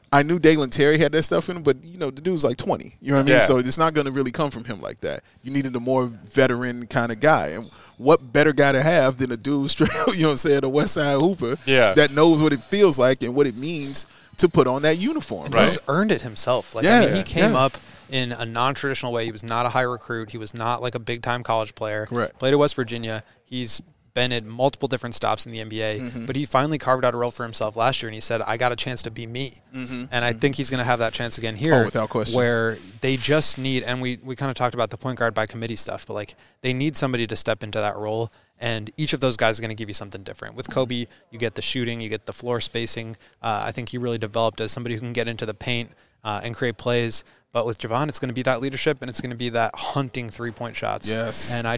[SPEAKER 2] I knew Dalen Terry had that stuff in him, but, the dude's like 20. You know what I mean?
[SPEAKER 1] Yeah.
[SPEAKER 2] So it's not going to really come from him like that. You needed a more veteran kind of guy. And what better guy to have than a dude straight, a West Side hooper that knows what it feels like and what it means to put on that uniform.
[SPEAKER 4] Right. He's earned it himself. He came up in a non-traditional way. He was not a high recruit. He was not like a big-time college player.
[SPEAKER 2] Correct.
[SPEAKER 4] Played at West Virginia. He's been at multiple different stops in the NBA, but he finally carved out a role for himself last year, and he said, I got a chance to be me. And I think he's going to have that chance again here.
[SPEAKER 2] Without question.
[SPEAKER 4] Where they just need, and we kind of talked about the point guard by committee stuff, but they need somebody to step into that role, and each of those guys are going to give you something different. With Kobe, you get the shooting, you get the floor spacing. I think he really developed as somebody who can get into the paint and create plays. But with Javon, it's going to be that leadership, and it's going to be that hunting three-point shots.
[SPEAKER 2] Yes.
[SPEAKER 4] And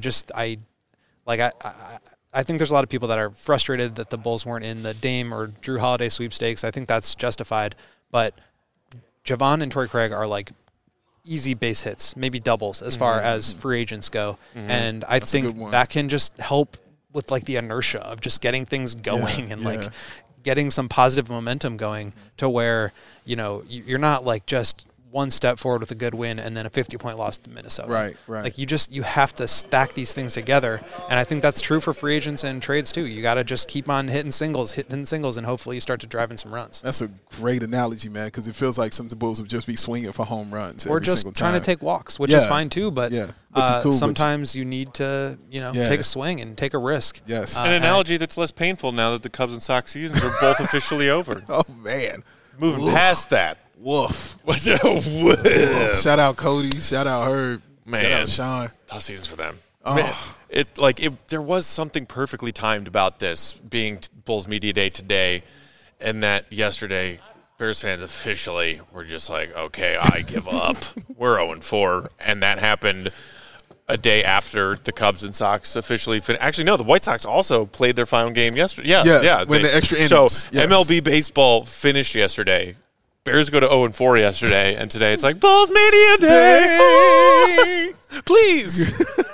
[SPEAKER 4] I think there's a lot of people that are frustrated that the Bulls weren't in the Dame or Drew Holiday sweepstakes. I think that's justified. But Javon and Torrey Craig are easy base hits, maybe doubles as far as free agents go. And I think that can just help with the inertia of just getting things going and getting some positive momentum going to where, you're not just one step forward with a good win and then a 50-point loss to Minnesota.
[SPEAKER 2] Right.
[SPEAKER 4] You have to stack these things together, and I think that's true for free agents and trades too. You got to just keep on hitting singles, and hopefully you start to drive in some runs.
[SPEAKER 2] That's a great analogy, man, because it feels like some of the Bulls would just be swinging for home runs
[SPEAKER 4] or just trying to take walks, which is fine too. But
[SPEAKER 2] cool,
[SPEAKER 4] sometimes you need to, take a swing and take a risk.
[SPEAKER 2] Yes,
[SPEAKER 1] an analogy that's less painful now that the Cubs and Sox seasons are both officially over.
[SPEAKER 2] Oh man,
[SPEAKER 1] moving past that.
[SPEAKER 2] Woof.
[SPEAKER 1] What's a woof?
[SPEAKER 2] Shout out Cody. Shout out Herb.
[SPEAKER 1] Man.
[SPEAKER 2] Shout out Sean.
[SPEAKER 1] Tough seasons for them.
[SPEAKER 2] Oh.
[SPEAKER 1] Man, there was something perfectly timed about this being Bulls Media Day today, and that yesterday Bears fans officially were just like, okay, I give up. We're 0-4, and that happened a day after the Cubs and Sox officially finished. Actually, no, the White Sox also played their final game yesterday.
[SPEAKER 2] When the extra innings.
[SPEAKER 1] So MLB baseball finished yesterday. Bears go to 0-4 yesterday, and today it's Bulls Media Day. Oh, please.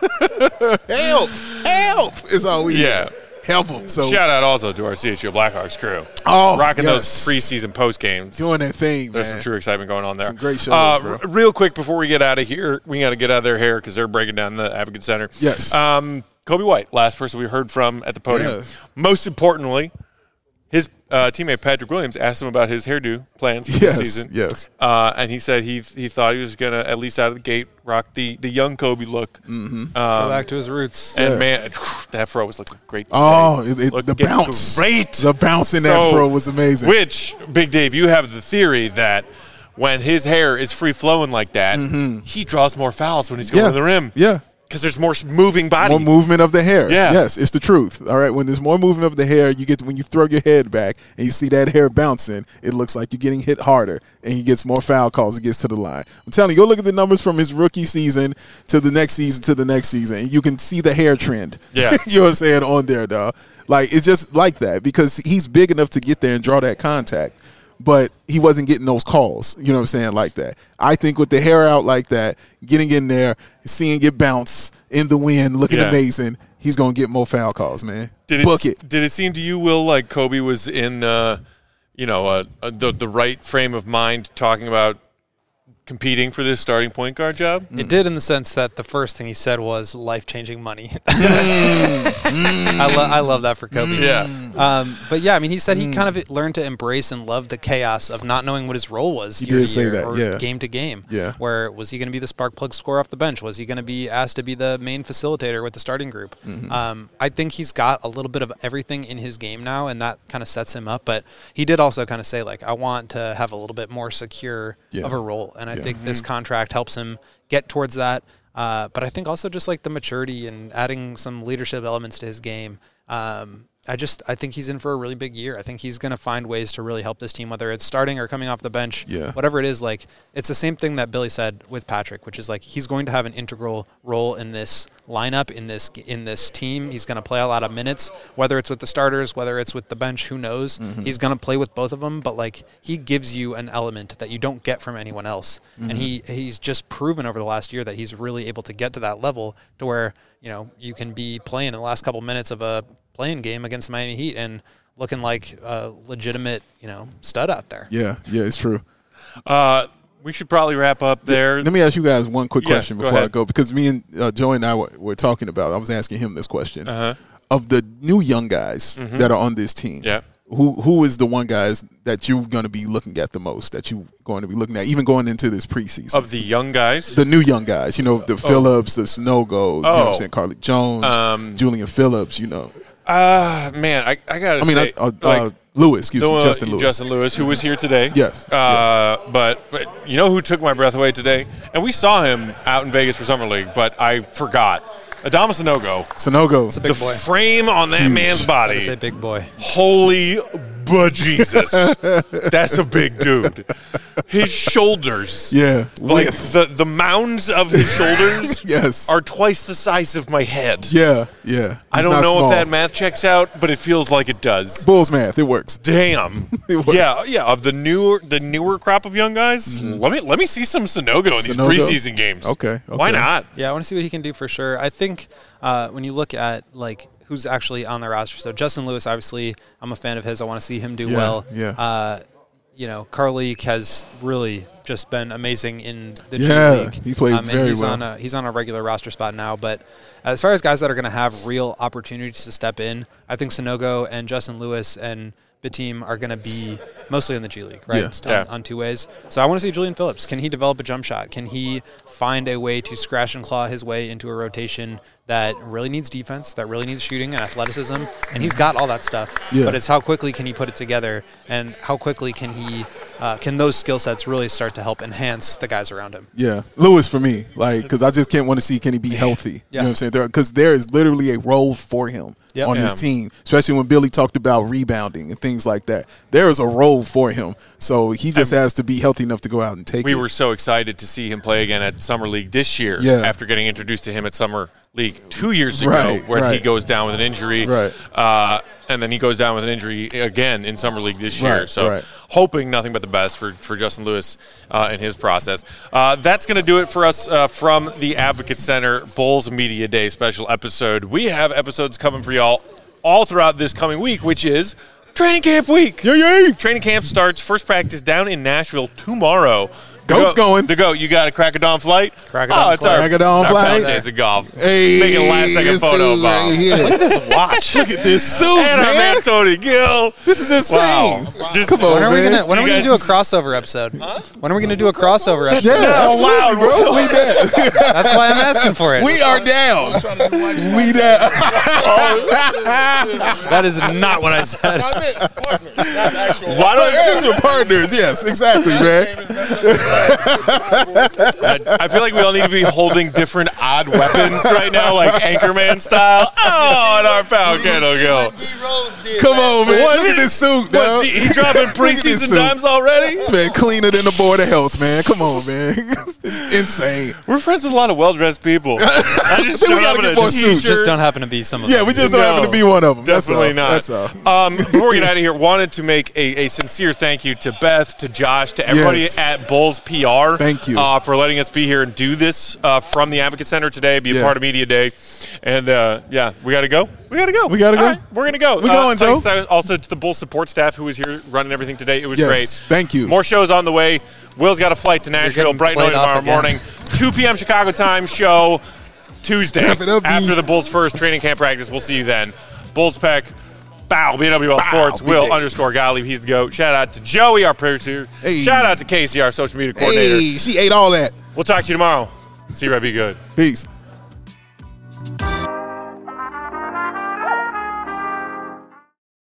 [SPEAKER 2] Help is all we need. Help them. So
[SPEAKER 1] shout out also to our CHGO Blackhawks crew.
[SPEAKER 2] Oh,
[SPEAKER 1] rocking those preseason post games.
[SPEAKER 2] Doing that thing,
[SPEAKER 1] There's some true excitement going on there.
[SPEAKER 2] Some great shows, bro.
[SPEAKER 1] Real quick before we get out of here, we got to get out of their hair because they're breaking down the Advocate Center.
[SPEAKER 2] Yes.
[SPEAKER 1] Kobe White, last person we heard from at the podium.
[SPEAKER 2] Yeah.
[SPEAKER 1] Most importantly, his teammate Patrick Williams asked him about his hairdo plans for the season.
[SPEAKER 2] Yes.
[SPEAKER 1] And he said he thought he was going to, at least out of the gate, rock the young Kobe look.
[SPEAKER 4] Go back to his roots.
[SPEAKER 1] And, man, that fro was looking great today.
[SPEAKER 2] Oh, the bounce.
[SPEAKER 1] Great.
[SPEAKER 2] The bounce in that fro was amazing.
[SPEAKER 1] Which, Big Dave, you have the theory that when his hair is free-flowing like that, he draws more fouls when he's going to the rim.
[SPEAKER 2] Yeah.
[SPEAKER 1] Because there's more moving body.
[SPEAKER 2] More movement of the hair.
[SPEAKER 1] Yeah.
[SPEAKER 2] Yes, it's the truth. All right. When there's more movement of the hair, when you throw your head back and you see that hair bouncing, it looks like you're getting hit harder, and he gets more foul calls and gets to the line. I'm telling you, go look at the numbers from his rookie season to the next season to the next season, and you can see the hair trend.
[SPEAKER 1] Yeah.
[SPEAKER 2] You know what I'm saying, on there, dog. It's just like that because he's big enough to get there and draw that contact. But he wasn't getting those calls, you know what I'm saying, like that. I think with the hair out like that, getting in there, seeing it bounce in the wind, looking amazing, he's going to get more foul calls, man. Book it.
[SPEAKER 1] Did it seem to you, Will, like Kobe was in, the right frame of mind talking about competing for this starting point guard job?
[SPEAKER 4] It did, in the sense that the first thing he said was life-changing money. I love that for Kobe.
[SPEAKER 1] Yeah.
[SPEAKER 4] But yeah, I mean, he said he kind of learned to embrace and love the chaos of not knowing what his role was year to year or game to game.
[SPEAKER 2] Yeah.
[SPEAKER 4] Where was he going to be the spark plug scorer off the bench? Was he going to be asked to be the main facilitator with the starting group? I think he's got a little bit of everything in his game now, and that kind of sets him up. But he did also kind of say, I want to have a little bit more secure of a role, and I think this contract helps him get towards that. But I think also just the maturity and adding some leadership elements to his game. I think he's in for a really big year. I think he's going to find ways to really help this team, whether it's starting or coming off the bench.
[SPEAKER 2] Yeah.
[SPEAKER 4] Whatever it is, it's the same thing that Billy said with Patrick, which is he's going to have an integral role in this lineup, in this team. He's going to play a lot of minutes, whether it's with the starters, whether it's with the bench, who knows. He's going to play with both of them, but he gives you an element that you don't get from anyone else. And he's just proven over the last year that he's really able to get to that level to where, you can be playing in the last couple minutes of a playing game against the Miami Heat and looking like a legitimate, stud out there.
[SPEAKER 2] Yeah, it's true.
[SPEAKER 1] We should probably wrap up there.
[SPEAKER 2] Let me ask you guys one quick question before I
[SPEAKER 1] ahead.
[SPEAKER 2] go, because me and Joey and I were talking about. I was asking him this question of the new young guys that are on this team.
[SPEAKER 1] Yeah.
[SPEAKER 2] Who is the one guys that you're going to be looking at the most? That you're going to be looking at, even going into this preseason?
[SPEAKER 1] Of the young guys,
[SPEAKER 2] the new young guys, the Phillips, the Snogo, you know what I'm saying, Carlik Jones, Julian Phillips,
[SPEAKER 1] man, I gotta say,
[SPEAKER 2] Lewis, Justin Lewis.
[SPEAKER 1] Justin Lewis, who was here today.
[SPEAKER 2] Yes.
[SPEAKER 1] But you know who took my breath away today? And we saw him out in Vegas for Summer League, but I forgot. Adama Sanogo.
[SPEAKER 4] It's a big boy.
[SPEAKER 1] The frame on that man's body.
[SPEAKER 4] It's a big boy.
[SPEAKER 1] Holy bejesus. That's a big dude. His shoulders.
[SPEAKER 2] Yeah.
[SPEAKER 1] Like the mounds of his shoulders
[SPEAKER 2] yes.
[SPEAKER 1] are twice the size of my head.
[SPEAKER 2] Yeah.
[SPEAKER 1] I don't know if that math checks out, but it feels like it does.
[SPEAKER 2] Bulls math, it works.
[SPEAKER 1] Damn.
[SPEAKER 2] It works.
[SPEAKER 1] Yeah. Of the newer crop of young guys, let me see some Sanogo in these preseason games.
[SPEAKER 2] Okay.
[SPEAKER 1] Why not?
[SPEAKER 4] Yeah, I want to see what he can do for sure. I think when you look at who's actually on the roster, so Justin Lewis, obviously, I'm a fan of his. I want to see him do well.
[SPEAKER 2] Yeah.
[SPEAKER 4] Carlik has really just been amazing in the G League.
[SPEAKER 2] He played very well.
[SPEAKER 4] He's on a regular roster spot now. But as far as guys that are going to have real opportunities to step in, I think Sanogo and Justin Lewis and Batum are going to be mostly in the G League, right?
[SPEAKER 2] Yeah.
[SPEAKER 4] On two ways. So I want to see Julian Phillips. Can he develop a jump shot? Can he find a way to scratch and claw his way into a rotation that really needs defense, that really needs shooting and athleticism? And he's got all that stuff.
[SPEAKER 2] Yeah.
[SPEAKER 4] But it's how quickly can he put it together, and how quickly can those skill sets really start to help enhance the guys around him?
[SPEAKER 2] Yeah, Lewis for me, because I just can't want to see can he be healthy. You know what I'm saying? Because there is literally a role for him on this team, especially when Billy talked about rebounding and things like that. There is a role for him, so he just has to be healthy enough to go out and take it.
[SPEAKER 1] We were so excited to see him play again at Summer League this year after getting introduced to him at Summer League 2 years ago when he goes down with an injury.
[SPEAKER 2] Right.
[SPEAKER 1] And then he goes down with an injury again in Summer League this year. So hoping nothing but the best for Justin Lewis in his process. That's going to do it for us from the Advocate Center Bulls Media Day special episode. We have episodes coming for y'all all throughout this coming week, which is Training Camp Week.
[SPEAKER 2] Yay!
[SPEAKER 1] Training camp starts, first practice down in Nashville tomorrow.
[SPEAKER 2] Goat's going.
[SPEAKER 1] The Goat, you got a Crack-a-Dawn flight?
[SPEAKER 4] It's our
[SPEAKER 2] flight.
[SPEAKER 1] Jason Golf.
[SPEAKER 2] Hey,
[SPEAKER 1] making a last-second photo of Bob.
[SPEAKER 4] Look at this watch.
[SPEAKER 2] Look at this suit,
[SPEAKER 1] And our man
[SPEAKER 2] man.
[SPEAKER 1] Tony Gill.
[SPEAKER 2] This is insane.
[SPEAKER 1] Wow.
[SPEAKER 2] Come on,
[SPEAKER 4] When are we
[SPEAKER 2] man.
[SPEAKER 4] gonna do a crossover episode? When are we gonna do a crossover episode?
[SPEAKER 2] Yeah, absolutely, bro. We down.
[SPEAKER 4] That's why I'm asking for it.
[SPEAKER 2] We are down. We down.
[SPEAKER 4] That is not what I said.
[SPEAKER 1] Why don't
[SPEAKER 2] Extra partners. Yes, exactly, man.
[SPEAKER 1] I feel like we all need to be holding different odd weapons right now, like Anchorman style. Oh, and our pal Kendall Gill.
[SPEAKER 2] Come on, man.
[SPEAKER 1] What
[SPEAKER 2] Look
[SPEAKER 1] is-
[SPEAKER 2] at this suit,
[SPEAKER 1] What,
[SPEAKER 2] dog.
[SPEAKER 1] he dropping
[SPEAKER 2] Look at this
[SPEAKER 1] preseason
[SPEAKER 2] suit.
[SPEAKER 1] dimes already?
[SPEAKER 2] Man, cleaner than the Board of Health, man. Come on, man. It's insane.
[SPEAKER 1] We're friends with a lot of well-dressed people. I just
[SPEAKER 2] Then we
[SPEAKER 1] showed
[SPEAKER 2] gotta
[SPEAKER 1] up
[SPEAKER 2] get
[SPEAKER 1] in a
[SPEAKER 2] more suits.
[SPEAKER 1] t-shirt.
[SPEAKER 4] Just don't happen to be some of
[SPEAKER 2] Yeah,
[SPEAKER 4] them.
[SPEAKER 2] we just don't happen to be one of them.
[SPEAKER 1] Definitely
[SPEAKER 2] That's
[SPEAKER 1] not.
[SPEAKER 2] That's all.
[SPEAKER 1] Before we get out of here, wanted to make a sincere thank you to Beth, to Josh, to everybody
[SPEAKER 2] Yes.
[SPEAKER 1] at Bulls PR.
[SPEAKER 2] Thank you.
[SPEAKER 1] For letting us be here and do this from the Advocate Center today, be a
[SPEAKER 2] Yeah.
[SPEAKER 1] part of Media Day. And, we got to go? We got to go.
[SPEAKER 2] We gotta
[SPEAKER 1] All
[SPEAKER 2] go.
[SPEAKER 1] right, we're going to go.
[SPEAKER 2] We going, Joe.
[SPEAKER 1] Thanks also to the Bulls support staff who was here running everything today. It was
[SPEAKER 2] Yes,
[SPEAKER 1] great.
[SPEAKER 2] thank you.
[SPEAKER 1] More shows on the way. Will's got a flight to Nashville
[SPEAKER 4] getting
[SPEAKER 1] bright and early
[SPEAKER 4] played off
[SPEAKER 1] tomorrow
[SPEAKER 4] again.
[SPEAKER 1] morning. 2 p.m. Chicago time show Tuesday.
[SPEAKER 2] Wrap it up, B.
[SPEAKER 1] After the Bulls' first training camp practice. We'll see you then. Bulls Peck. Bow, BWL Sports,
[SPEAKER 2] Big
[SPEAKER 1] Will
[SPEAKER 2] day.
[SPEAKER 1] _Gottlieb, he's the GOAT. Shout out to Joey, our producer.
[SPEAKER 2] Hey.
[SPEAKER 1] Shout out to Casey, our social media coordinator.
[SPEAKER 2] Hey, she ate all that.
[SPEAKER 1] We'll talk to you tomorrow. See you, right, be good.
[SPEAKER 2] Peace.